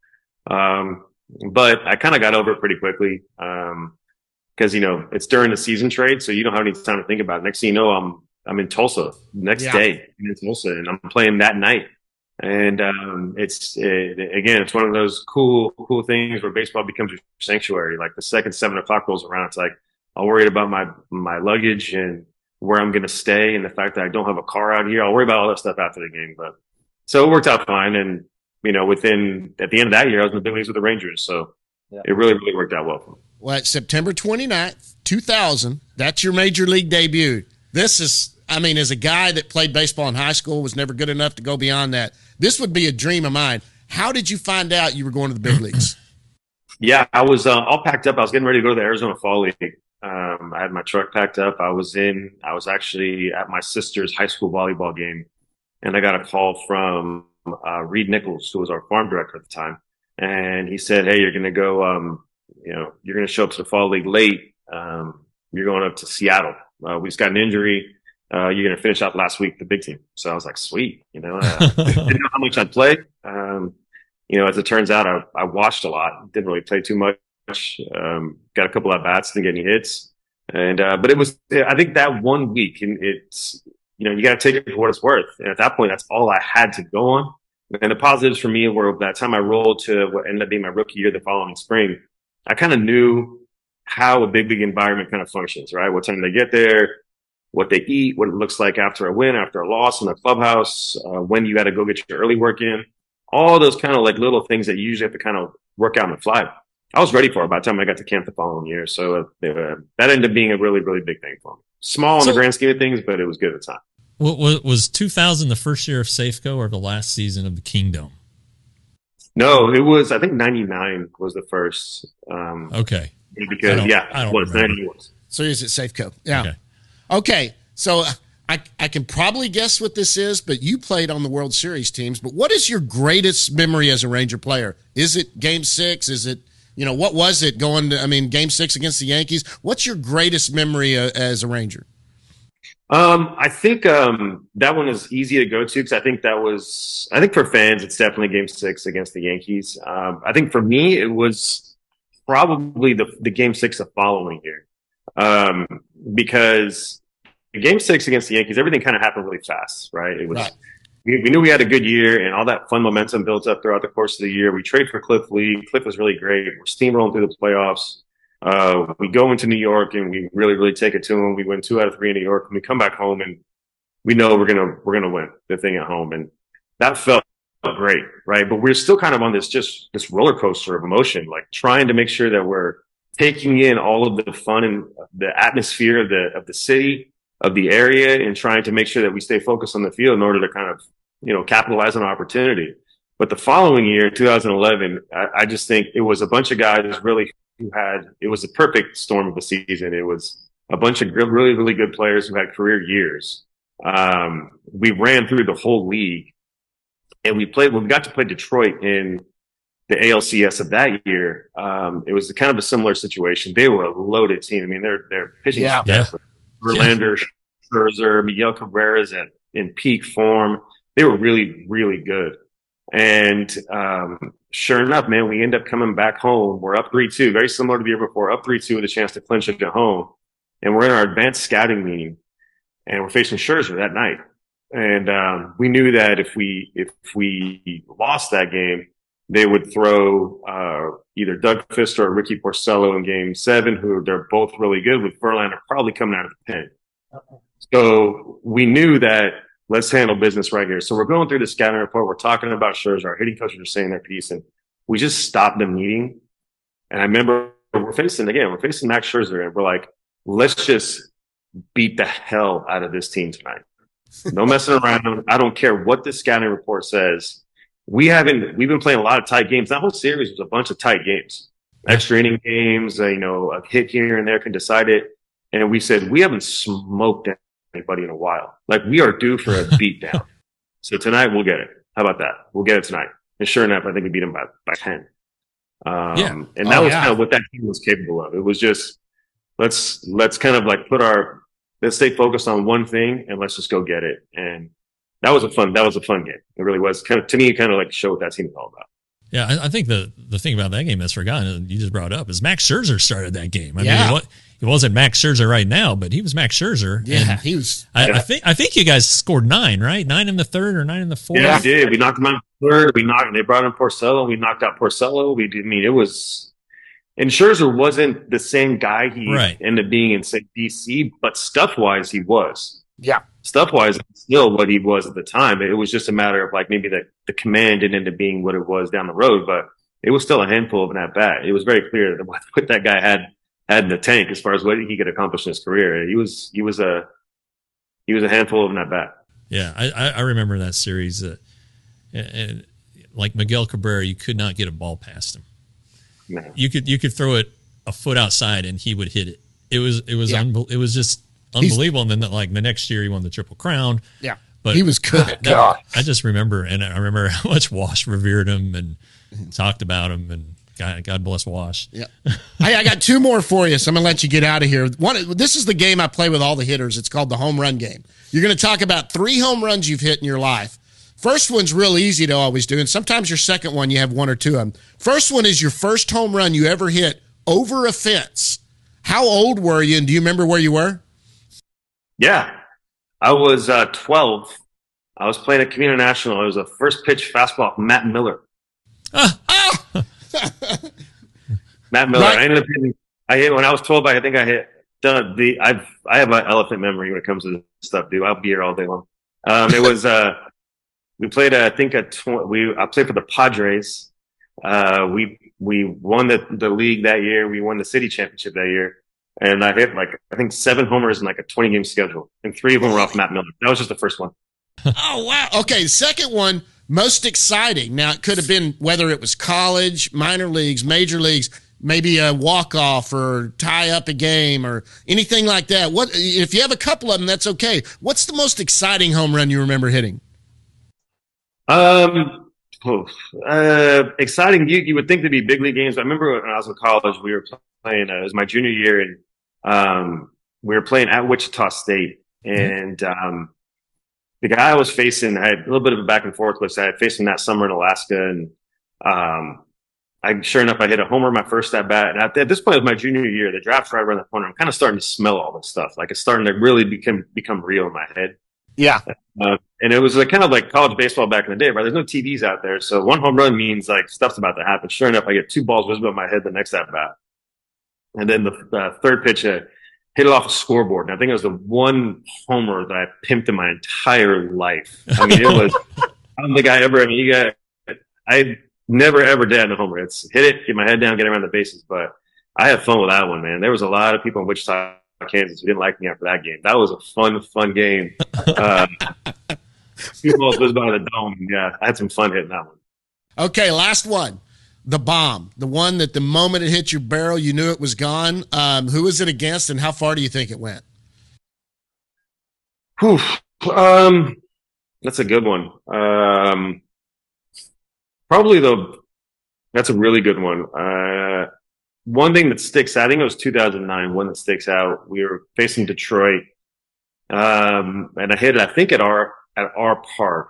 But I kind of got over it pretty quickly. Because, it's during the season trade, so you don't have any time to think about it. Next thing you know, I'm in Tulsa next day in Tulsa, and I'm playing that night. And it's one of those cool things where baseball becomes your sanctuary. Like the second 7 o'clock rolls around, it's like I'll worry about my luggage and where I'm going to stay, and the fact that I don't have a car out here. I'll worry about all that stuff after the game. But so it worked out fine, and at the end of that year, I was in the big leagues with the Rangers. So it really, really worked out well for me. Well, it's September 29th, 2000. That's your major league debut. This is, as a guy that played baseball in high school, was never good enough to go beyond that, this would be a dream of mine. How did you find out you were going to the big leagues? Yeah, I was all packed up. I was getting ready to go to the Arizona Fall League. I had my truck packed up. I was actually at my sister's high school volleyball game, and I got a call from Reed Nichols, who was our farm director at the time. And he said, "Hey, you're going to go, you're going to show up to the Fall League late. You're going up to Seattle. We just got an injury. You're going to finish out last week, the big team." So I was like, sweet. Didn't know how much I'd play. As it turns out, I watched a lot. Didn't really play too much. Got a couple of bats, didn't get any hits. But it was, I think that 1 week, and it's, you got to take it for what it's worth. And at that point, that's all I had to go on. And the positives for me were by the time I rolled to what ended up being my rookie year the following spring, I kind of knew how a big league environment kind of functions, right? What time they get there, what they eat, what it looks like after a win, after a loss in the clubhouse, when you got to go get your early work in, all those kind of like little things that you usually have to kind of work out on the fly. I was ready for it by the time I got to camp the following year. So that ended up being a really, really big thing for me. Small in the grand scheme of things, but it was good at the time. Was 2000 the first year of Safeco or the last season of the Kingdom? No, it was, I think 99 was the first. Okay. Because, I don't remember. 90 was. So is it Safeco? Yeah. Okay. So I can probably guess what this is, but you played on the World Series teams. But what is your greatest memory as a Ranger player? Is it Game 6? Is it, what was it going to, Game 6 against the Yankees? What's your greatest memory as a Ranger? I think that one is easy to go to because I think for fans, it's definitely Game 6 against the Yankees. I think for me, it was probably the Game 6 the following year. Because Game 6 against the Yankees, everything kind of happened really fast, right? It was, right. We knew we had a good year and all that fun momentum built up throughout the course of the year. We traded for Cliff Lee. Cliff was really great. We're steamrolling through the playoffs. We go into New York and we really, really take it to them. We win 2 out of 3 in New York and we come back home and we know we're going to win the thing at home. And that felt great, right? But we're still kind of on this roller coaster of emotion, like trying to make sure that we're taking in all of the fun and the atmosphere of the city, of the area, and trying to make sure that we stay focused on the field in order to kind of, capitalize on opportunity. But the following year, 2011, I just think it was a bunch of guys really it was a perfect storm of a season. It was a bunch of really, really good players who had career years. We ran through the whole league and we got to play Detroit in the ALCS of that year. It was kind of a similar situation. They were a loaded team. They're pitching staff. Verlander, Scherzer, Miguel Cabrera's in peak form. They were really, really good. And sure enough, man, we end up coming back home. We're up 3-2, very similar to the year before, up 3-2 with a chance to clinch it at home. And we're in our advanced scouting meeting, and we're facing Scherzer that night. And we knew that if we lost that game, they would throw either Doug Fister or Ricky Porcello in Game 7, who they're both really good, with Verlander probably coming out of the pen. So we knew that let's handle business right here. So we're going through the scouting report. We're talking about Scherzer. Our hitting coaches are saying their piece, and we just stopped the meeting. And I remember we're facing Max Scherzer, and we're like, let's just beat the hell out of this team tonight. No messing around. I don't care what the scouting report says. We've been playing a lot of tight games. That whole series was a bunch of tight games, extra inning games, a hit here and there can decide it. And we said, we haven't smoked anybody in a while. Like, we are due for a beatdown. So tonight we'll get it. How about that? We'll get it tonight. And sure enough, I think we beat them by 10. And that was kind of what that team was capable of. It was just, let's kind of like let's stay focused on one thing and let's just go get it. And that was a fun game. It really was to me, kind of like show what that team is all about. Yeah, I think the thing about that game that's forgotten, and you just brought up, is Max Scherzer started that game. I mean, he wasn't Max Scherzer right now, but he was Max Scherzer. Yeah, he was. I think you guys scored 9, right? 9 in the third or 9 in the fourth. Yeah, we did. We knocked him out in the third. They brought in Porcello. We knocked out Porcello. It was. And Scherzer wasn't the same guy he ended up being in, say, DC, but stuff-wise, he was. Yeah. Stuff-wise, still what he was at the time. It was just a matter of, like, maybe the command didn't end up being what it was down the road, but it was still a handful of an at-bat. It was very clear that what that guy had in the tank as far as what he could accomplish in his career. He was a handful of an at-bat. Yeah, I remember that series. And like Miguel Cabrera, you could not get a ball past him. No. You could throw it a foot outside and he would hit it. It was it was just unbelievable. And then the next year he won the Triple Crown. Yeah, but he was good. I just remember, and I remember how much Wash revered him and talked about him, and God bless Wash. Yeah. Hey, I got 2 more for you, so I'm gonna let you get out of here. This is the game I play with all the hitters. It's called the home run game. You're gonna talk about 3 home runs you've hit in your life. First one's real easy to always do, and sometimes your second one you have 1 or 2 of them. First one is your first home run you ever hit over a fence. How old were you, and do you remember where you were? Yeah, I was 12. I was playing at Camino National. It was a first pitch fastball from Matt Miller. Matt Miller. Right. I ended up hitting. When I was 12. I think I hit. I have an elephant memory when it comes to this stuff, dude. I'll be here all day long. It was. We played. I played for the Padres. We won the league that year. We won the city championship that year. And I hit I think 7 homers in a 20-game schedule. And 3 of them were off Matt Miller. That was just the first one. Oh, wow. Okay, the second one, most exciting. Now, it could have been whether it was college, minor leagues, major leagues. maybe a walk-off or tie up a game or anything like that? What if you have a couple of them, that's okay. What's the most exciting home run you remember hitting? Exciting. You would think there'd be big league games. I remember when I was in college, we were playing, it was my junior year, and we were playing at Wichita State. And the guy I was facing, I had a little bit of a back and forth with. I had faced him that summer in Alaska, and sure enough, I hit a homer my first at bat. And at this point, it was my junior year. The draft's right around the corner. I'm kind of starting to smell all this stuff. Like, it's starting to really become real in my head. Yeah. And it was kind of like college baseball back in the day, right? There's no TVs out there. So one home run means like stuff's about to happen. Sure enough, I get 2 balls visible in my head the next at bat. And then the third pitch, hit it off a scoreboard. And I think it was the one homer that I pimped in my entire life. I mean, I don't think I never ever did a homer. It's hit it, get my head down, get around the bases. But I had fun with that one, man. There was a lot of people in Wichita, Kansas, who didn't like me after that game. That was a fun game. 2 balls was by the dome. Yeah, I had some fun hitting that one. Okay, last one. The bomb. The one that the moment it hit your barrel, you knew it was gone. Who was it against, and how far do you think it went? Whew. That's a good one. That's a really good one. One thing that sticks out, I think it was 2009, one that sticks out. We were facing Detroit, and I hit it, I think, at our park.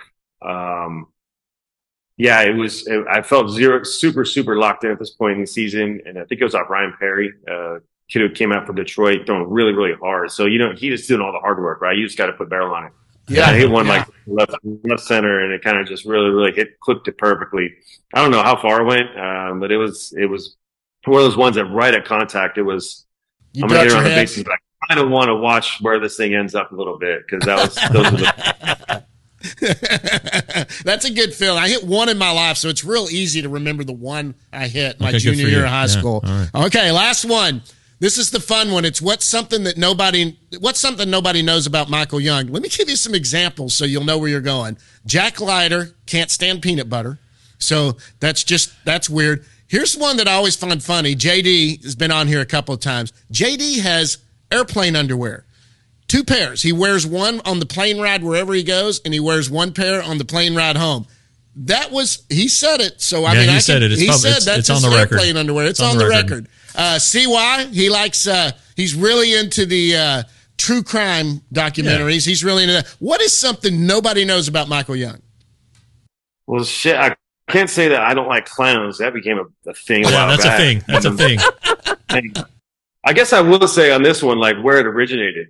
I felt super locked in at this point in the season, and I think it was off Ryan Perry, kid who came out from Detroit, throwing really hard. So, he just doing all the hard work, right? You just got to put barrel on it. Yeah, I hit one like left center, and it kind of just really clipped it perfectly. I don't know how far it went, but it was one of those ones that right at contact, I'm going to get around the bases, but I kind of want to watch where this thing ends up a little bit, because those were the That's a good feeling. I hit one in my life, so it's real easy to remember the one I hit my junior year of high school. Right. Okay, last one. This is the fun one. It's what's something nobody knows about Michael Young. Let me give you some examples so you'll know where you're going. Jack Leiter can't stand peanut butter, so that's weird. Here's one that I always find funny. JD has been on here a couple of times. JD has airplane underwear. 2 pairs. He wears one on the plane ride wherever he goes, and he wears 1 pair on the plane ride home. He said it. So he said it. It's on the record. Airplane underwear. It's on the record. CY, he likes. He's really into the true crime documentaries. Yeah. He's really into that. What is something nobody knows about Michael Young? Well, shit. I can't say that I don't like clowns. That became a thing. That's a thing. That's a thing. I guess I will say on this one, like, where it originated.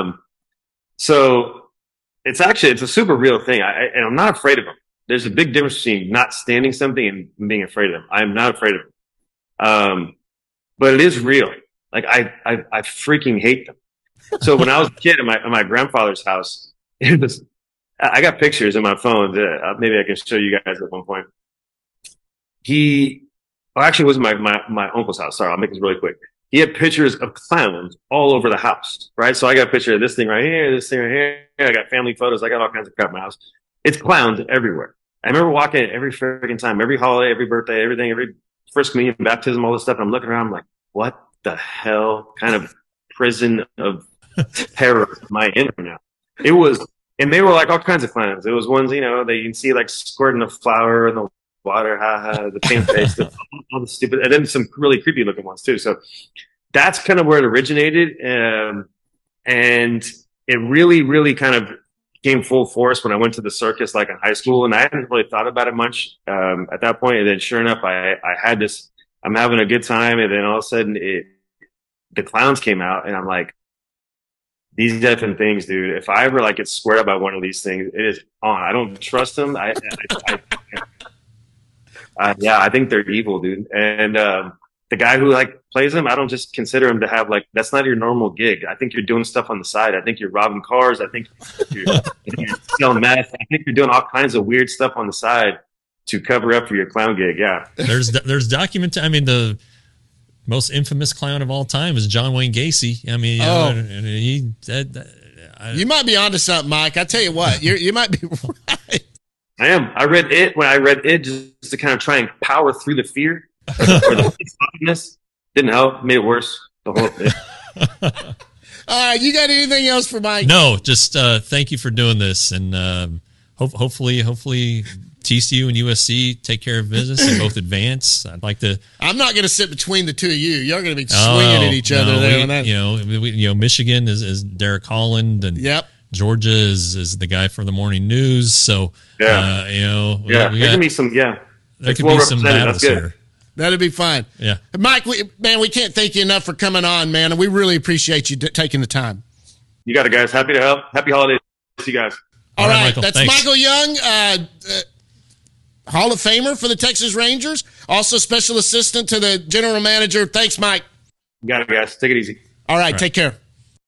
So it's a super real thing. And I'm not afraid of them. There's a big difference between not standing something and being afraid of them. I am not afraid of them. But it is real. Like, I freaking hate them. So when I was a kid at my grandfather's house, I got pictures in my phone that maybe I can show you guys at one point. Actually, it was my uncle's house. Sorry, I'll make this really quick. He had pictures of clowns all over the house, right? So I got a picture of this thing right here, this thing right here. I got family photos. I got all kinds of crap in my house. It's clowns everywhere. I remember walking it every freaking time, every holiday, every birthday, everything, every first communion, baptism, all this stuff. And I'm looking around, I'm like, what the hell kind of prison of terror am I in right now? It was, and they were like all kinds of clowns. It was ones, you can see like squirting a flower in the water, the pan face, all the stupid, and then some really creepy looking ones too. So that's kind of where it originated. And it really kind of came full force when I went to the circus, like in high school, and I hadn't really thought about it much, at that point. And then sure enough, I had this, I'm having a good time. And then all of a sudden the clowns came out, and I'm like, these different things, dude. If I ever like get squared up by one of these things, it is on. I don't trust them. I think they're evil, dude. And the guy who like plays them, I don't just consider him to have like, that's not your normal gig. I think you're doing stuff on the side. I think you're robbing cars. I think you're selling meth. I think you're doing all kinds of weird stuff on the side to cover up for your clown gig. Yeah. There's document. I mean, the most infamous clown of all time is John Wayne Gacy. I mean, you might be onto something, Mike. I tell you what, you might be right. I am. I read it just to kind of try and power through the fear or the awkwardness. Didn't help. Made it worse. The whole thing. You got anything else for Mike? No, just thank you for doing this, and hopefully TCU and USC take care of business and both advance. I'd like to. I'm not going to sit between the two of you. You're going to be swinging at each other there. On that. Michigan is Derek Holland, and Georgia is the guy from the Morning News. So there can be some there could be some battles here. That'd be fine. Yeah, Mike, we can't thank you enough for coming on, man, and we really appreciate you taking the time. You got it, guys. Happy to help. Happy holidays to you guys. All right, Michael, that's thanks. Michael Young, Hall of Famer for the Texas Rangers, also special assistant to the general manager. Thanks, Mike. You got it, guys. Take it easy. All right, take care.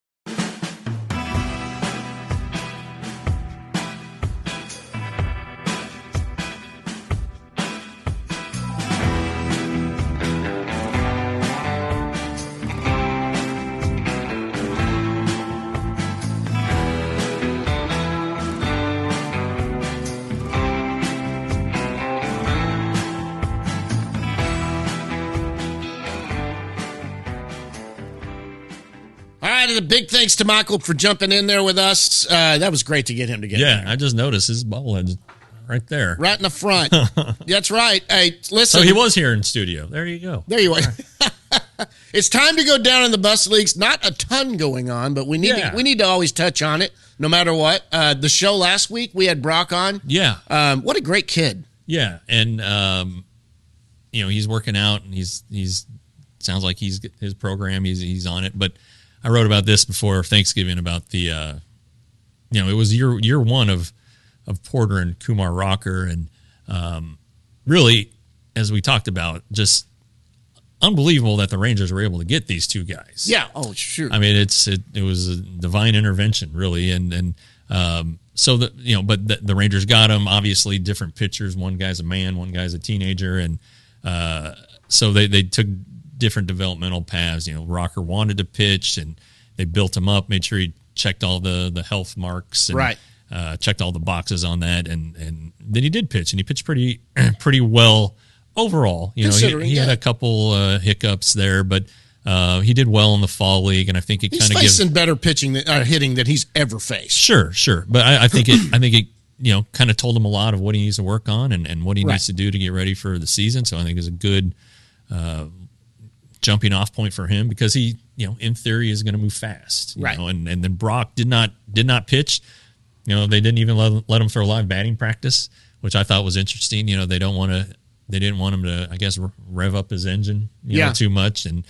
A big thanks to Michael for jumping in there with us. That was great to get him to get in there. I just noticed his bobblehead's right there. Right in the front. That's right. Hey, listen. So he was here in studio. There you go. There you are. It's time to go down in the bus leagues. Not a ton going on, but we need to always touch on it no matter what. The show last week, we had Brock on. Yeah. What a great kid. Yeah. And, he's working out, and he's sounds like his program, he's on it. But I wrote about this before Thanksgiving about the, it was year one of Porter and Kumar Rocker, and really, as we talked about, just unbelievable that the Rangers were able to get these two guys. Yeah. Oh, sure. I mean, it was a divine intervention, really, and so the Rangers got them. Obviously, different pitchers. One guy's a man, one guy's a teenager, and so they took different developmental paths. Rocker wanted to pitch, and they built him up, made sure he checked all the health marks, and checked all the boxes on that, and then he did pitch, and he pitched pretty well overall. He had a couple hiccups there, but he did well in the fall league, and I think it kind of gives facing better pitching hitting than he's ever faced. Sure, but I think it kind of told him a lot of what he needs to work on and what he needs to do to get ready for the season. So I think it's a good jumping off point for him, because he, in theory, is going to move fast. You know, and then Brock did not pitch. They didn't even let him throw live batting practice, which I thought was interesting. They didn't want him to, I guess, rev up his engine, too much. And,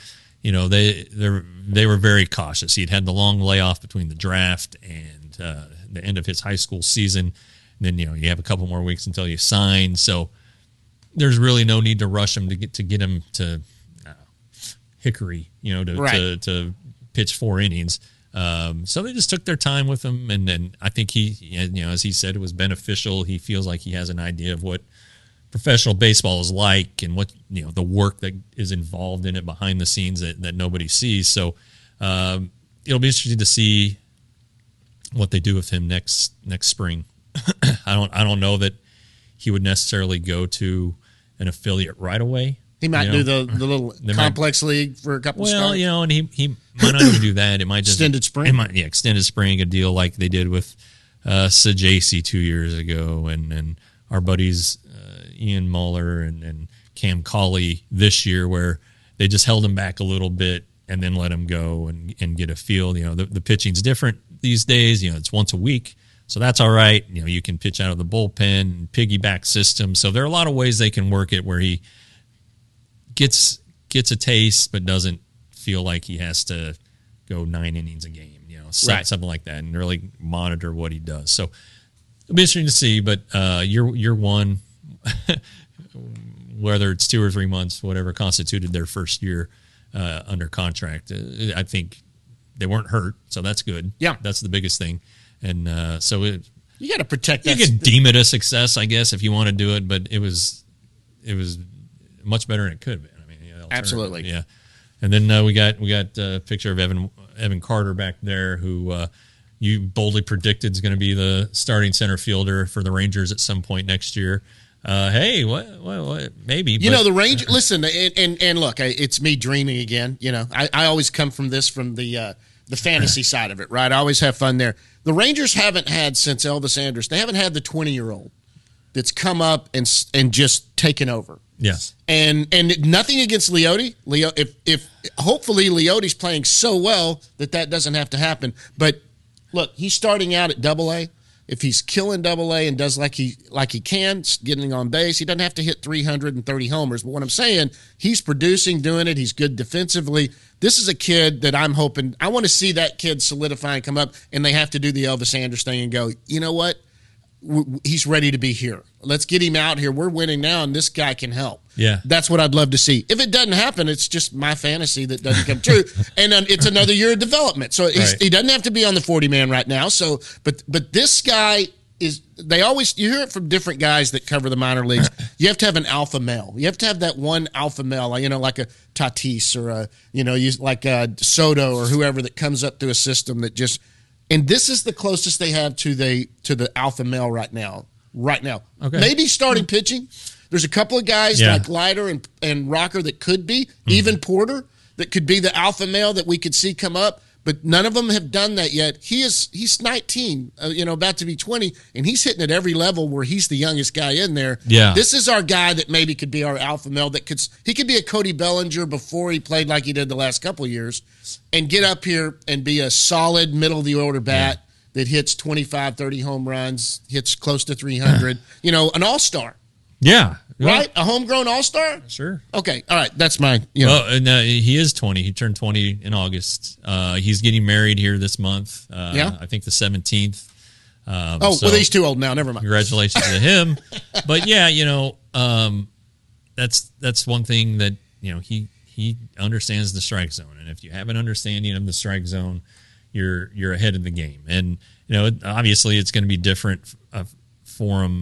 they were very cautious. He'd had the long layoff between the draft and the end of his high school season. And then, you have a couple more weeks until you sign. So there's really no need to rush him to get him to Hickory, to pitch 4 innings. So they just took their time with him, and then I think he, as he said, it was beneficial. He feels like he has an idea of what professional baseball is like, and what the work that is involved in it behind the scenes that nobody sees. So it'll be interesting to see what they do with him next spring. I don't know that he would necessarily go to an affiliate right away. He might do the little complex league for a couple of starts. Well, and he might not even do that. It might just extended spring. Extended spring, a deal like they did with Sajaci 2 years ago, and our buddies Ian Muller and Cam Cauley this year, where they just held him back a little bit and then let him go and get a feel. The pitching's different these days. It's once a week, so that's all right. You can pitch out of the bullpen, piggyback system. So there are a lot of ways they can work it where he gets a taste, but doesn't feel like he has to go 9 innings a game, something like that, and really monitor what he does. So it'll be interesting to see. But year one, whether it's 2 or 3 months, whatever constituted their first year under contract, I think they weren't hurt, so that's good. Yeah, that's the biggest thing. And so you got to protect that. You can deem it a success, I guess, if you want to do it, but it was much better than it could have been. I mean, absolutely. Yeah. And then we got a picture of Evan Carter back there, who you boldly predicted is going to be the starting center fielder for the Rangers at some point next year. Hey, what? Maybe. You know, the Rangers. Listen, and look, it's me dreaming again. You know, I always come from the fantasy side of it, right? I always have fun there. The Rangers haven't had since Elvis Andrus. They haven't had the 20-year-old that's come up and just taken over. Yes. And nothing against Leote. If hopefully Leote's playing so well that doesn't have to happen. But look, he's starting out at Double-A. If he's killing Double-A and does like he can, getting on base, he doesn't have to hit 330 homers. But what I'm saying, he's producing, doing it. He's good defensively. This is a kid that I'm hoping – I want to see that kid solidify and come up, and they have to do the Elvis Andrus thing and go, you know what? He's ready to be here. Let's get him out here. We're winning now, and this guy can help. Yeah. That's what I'd love to see. If it doesn't happen, it's just my fantasy that doesn't come true. And it's another year of development. So he doesn't have to be on the 40-man right now. So, but this guy is – they always – you hear it from different guys that cover the minor leagues. You have to have an alpha male. You have to have that one alpha male, you know, like a Tatis or like a Soto or whoever that comes up through a system that just – and this is the closest they have to the alpha male right now. Okay. Maybe starting pitching. There's a couple of guys like Leiter and Rocker that could be, even Porter, that could be the alpha male that we could see come up, but none of them have done that yet. He's 19, about to be 20, and he's hitting at every level where he's the youngest guy in there. Yeah. This is our guy that maybe could be our alpha male he could be a Cody Bellinger before he played like he did the last couple of years and get up here and be a solid middle-of-the-order bat that hits 25, 30 home runs, hits close to 300, an all-star. Yeah. Right? A homegrown all-star? Sure. Okay. All right. That's mine. Well, he is 20. He turned 20 in August. He's getting married here this month. I think the 17th. Well, he's too old now. Never mind. Congratulations to him. But yeah, that's one thing that, he understands the strike zone. And if you have an understanding of the strike zone, you're ahead of the game. And, obviously it's going to be different for him,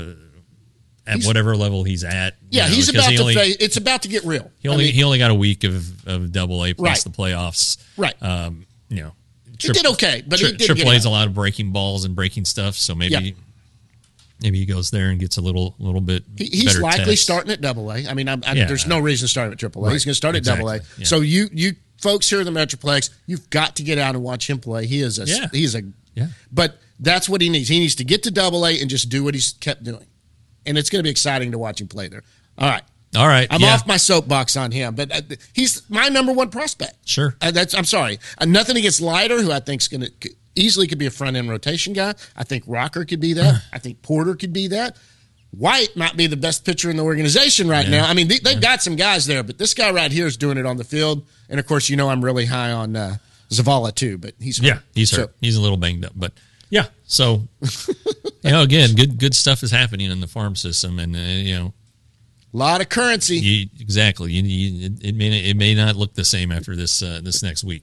at whatever level he's at. Yeah, he's about to face. It's about to get real. He only got a week of Double-A plus the playoffs. Right. He did okay, but he did plays a lot of breaking balls and breaking stuff. So maybe he goes there and gets a little bit. He's better likely test. starting at Double-A. I mean, there's no reason to start at Triple-A. Right. He's going to start at Double-A. Yeah. So you folks here in the Metroplex, you've got to get out and watch him play. He's a. But that's what he needs. He needs to get to Double-A and just do what he's kept doing. And it's going to be exciting to watch him play there. All right. I'm off my soapbox on him, but he's my number one prospect. Sure. I'm sorry. Nothing against Leiter, who I think is going to easily could be a front-end rotation guy. I think Rocker could be that. I think Porter could be that. White might be the best pitcher in the organization right now. I mean, they've got some guys there, but this guy right here is doing it on the field. And, of course, I'm really high on Zavala, too, but he's hurt. Yeah, he's hurt. He's a little banged up, but – yeah, so again, good stuff is happening in the farm system, and a lot of currency. Exactly. It may not look the same after this next week.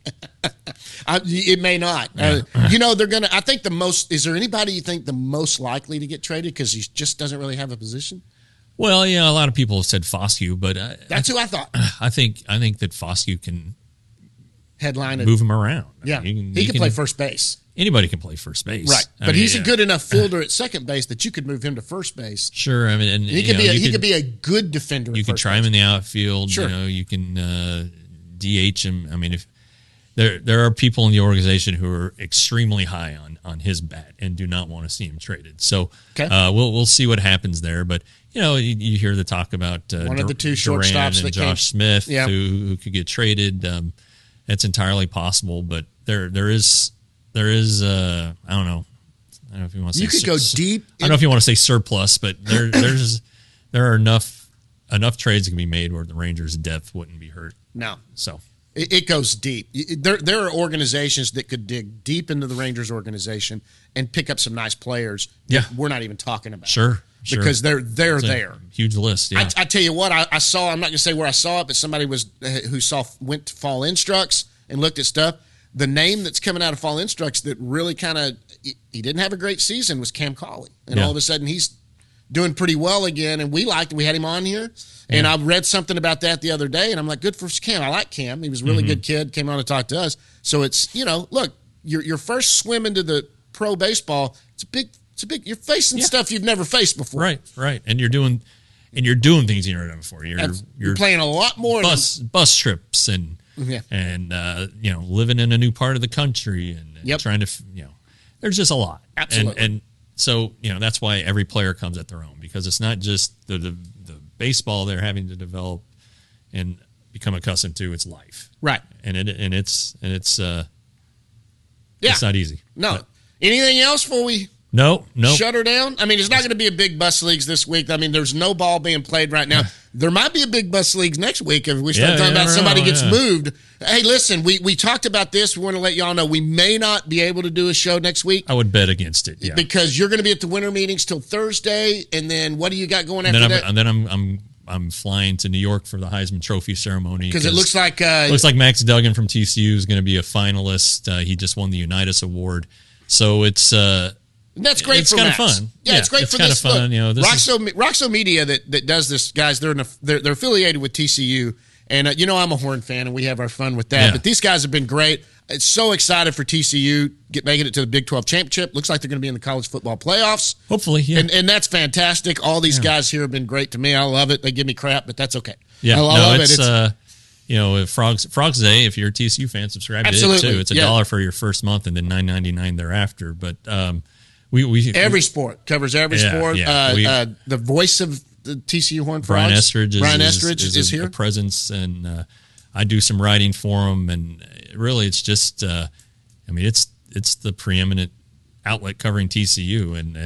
It may not. Yeah. They're gonna. I think the most. Is there anybody you think the most likely to get traded because he just doesn't really have a position? Well, a lot of people have said Foscue, but that's who I thought. I think that Foscue can headline move him around. Yeah, he can play first base. Anybody can play first base, right? But he's a good enough fielder at second base that you could move him to first base. Sure, I mean, and he could be a good defender. You can try him in the outfield. Sure. You can DH him. I mean, if there are people in the organization who are extremely high on his bat and do not want to see him traded. So we'll see what happens there. But you hear the talk about one of the two Duran shortstops and Josh Smith who could get traded. That's entirely possible, but there is I don't know if you want to say you could go deep. I don't know if you want to say surplus, but there are enough trades that can be made where the Rangers' depth wouldn't be hurt. No, so it goes deep. There are organizations that could dig deep into the Rangers organization and pick up some nice players. Yeah, we're not even talking about. Sure. Because they're there. Huge list. Yeah. I tell you what, I saw. I'm not going to say where I saw it, but somebody went to Fall Instructs and looked at stuff. The name that's coming out of Fall Instructs that really kind of he didn't have a great season was Cam Cauley, and all of a sudden he's doing pretty well again. And we had him on here, and I read something about that the other day, and I'm like, good for Cam. I like Cam. He was a really good kid. Came on to talk to us. So it's look, your first swim into the pro baseball. It's a You're facing stuff you've never faced before. Right. And you're doing things you've never done before. You're playing a lot more bus trips and living in a new part of the country and trying to, there's just a lot. Absolutely. And so, that's why every player comes at their own, because it's not just the baseball they're having to develop and become accustomed to, it's life. Right. And it's not easy. No. Anything else before we No. shut her down? I mean, it's not going to be a big bus leagues this week. I mean, there's no ball being played right now. There might be a big bus leagues next week if we start talking about somebody gets moved. Hey, listen, we talked about this. We want to let y'all know we may not be able to do a show next week. I would bet against it, because you're going to be at the winter meetings till Thursday, and then what do you got going after that? And then I'm flying to New York for the Heisman Trophy ceremony because it looks like Max Duggan from TCU is going to be a finalist. He just won the Unitas Award, so it's that's great. It's for kind of Max. fun. Yeah, it's great it's for kind this. of fun. This Roxo Media that does this, guys. They're affiliated with TCU, and I'm a Horn fan, and we have our fun with that. Yeah. But these guys have been great. It's so excited for TCU making it to the Big 12 championship. Looks like they're going to be in the college football playoffs. Hopefully, yeah. And that's fantastic. All these guys here have been great to me. I love it. They give me crap, but that's okay. Yeah, I love it. Frogs Day, if you're a TCU fan, subscribe Absolutely. to it too. It's $1 for your first month and then $9.99 thereafter. But we every sport covers every sport. Yeah. The voice of the TCU Horned Brian Frogs, Estridge is here. A presence, and I do some writing for him. And really, it's just, it's the preeminent outlet covering TCU, and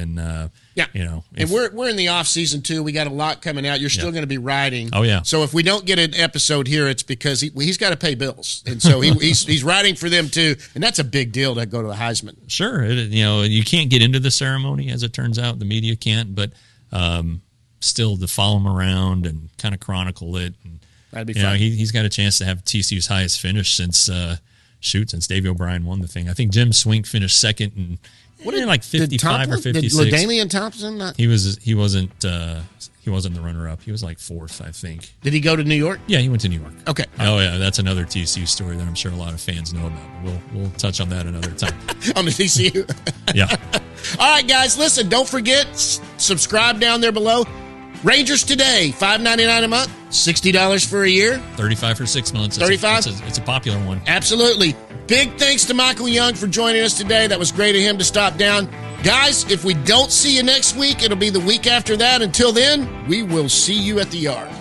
and we're in the off season too. We got a lot coming out. You're still going to be writing. Oh yeah. So if we don't get an episode here, it's because he's got to pay bills, and so he's writing for them too, and that's a big deal to go to the Heisman. Sure, you can't get into the ceremony, as it turns out. The media can't, but still to follow him around and kind of chronicle it. And, that'd be fun. He's got a chance to have TCU's highest finish since Davey O'Brien won the thing. I think Jim Swink finished second and. What are like 55 or 56? Did LaDainian Thompson not? He wasn't the runner-up. He was like fourth, I think. Did he go to New York? Yeah, he went to New York. Okay. Oh yeah, that's another TCU story that I'm sure a lot of fans know about. We'll touch on that another time. On the TCU. Yeah. All right, guys. Listen, don't forget, subscribe down there below. Rangers Today, $5.99 a month, $60 for a year, $35 for 6 months. $35. It's a popular one. Absolutely. Big thanks to Michael Young for joining us today. That was great of him to stop down. Guys, if we don't see you next week, it'll be the week after that. Until then, we will see you at the yard.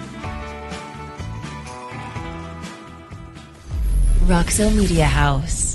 Roxo Media House.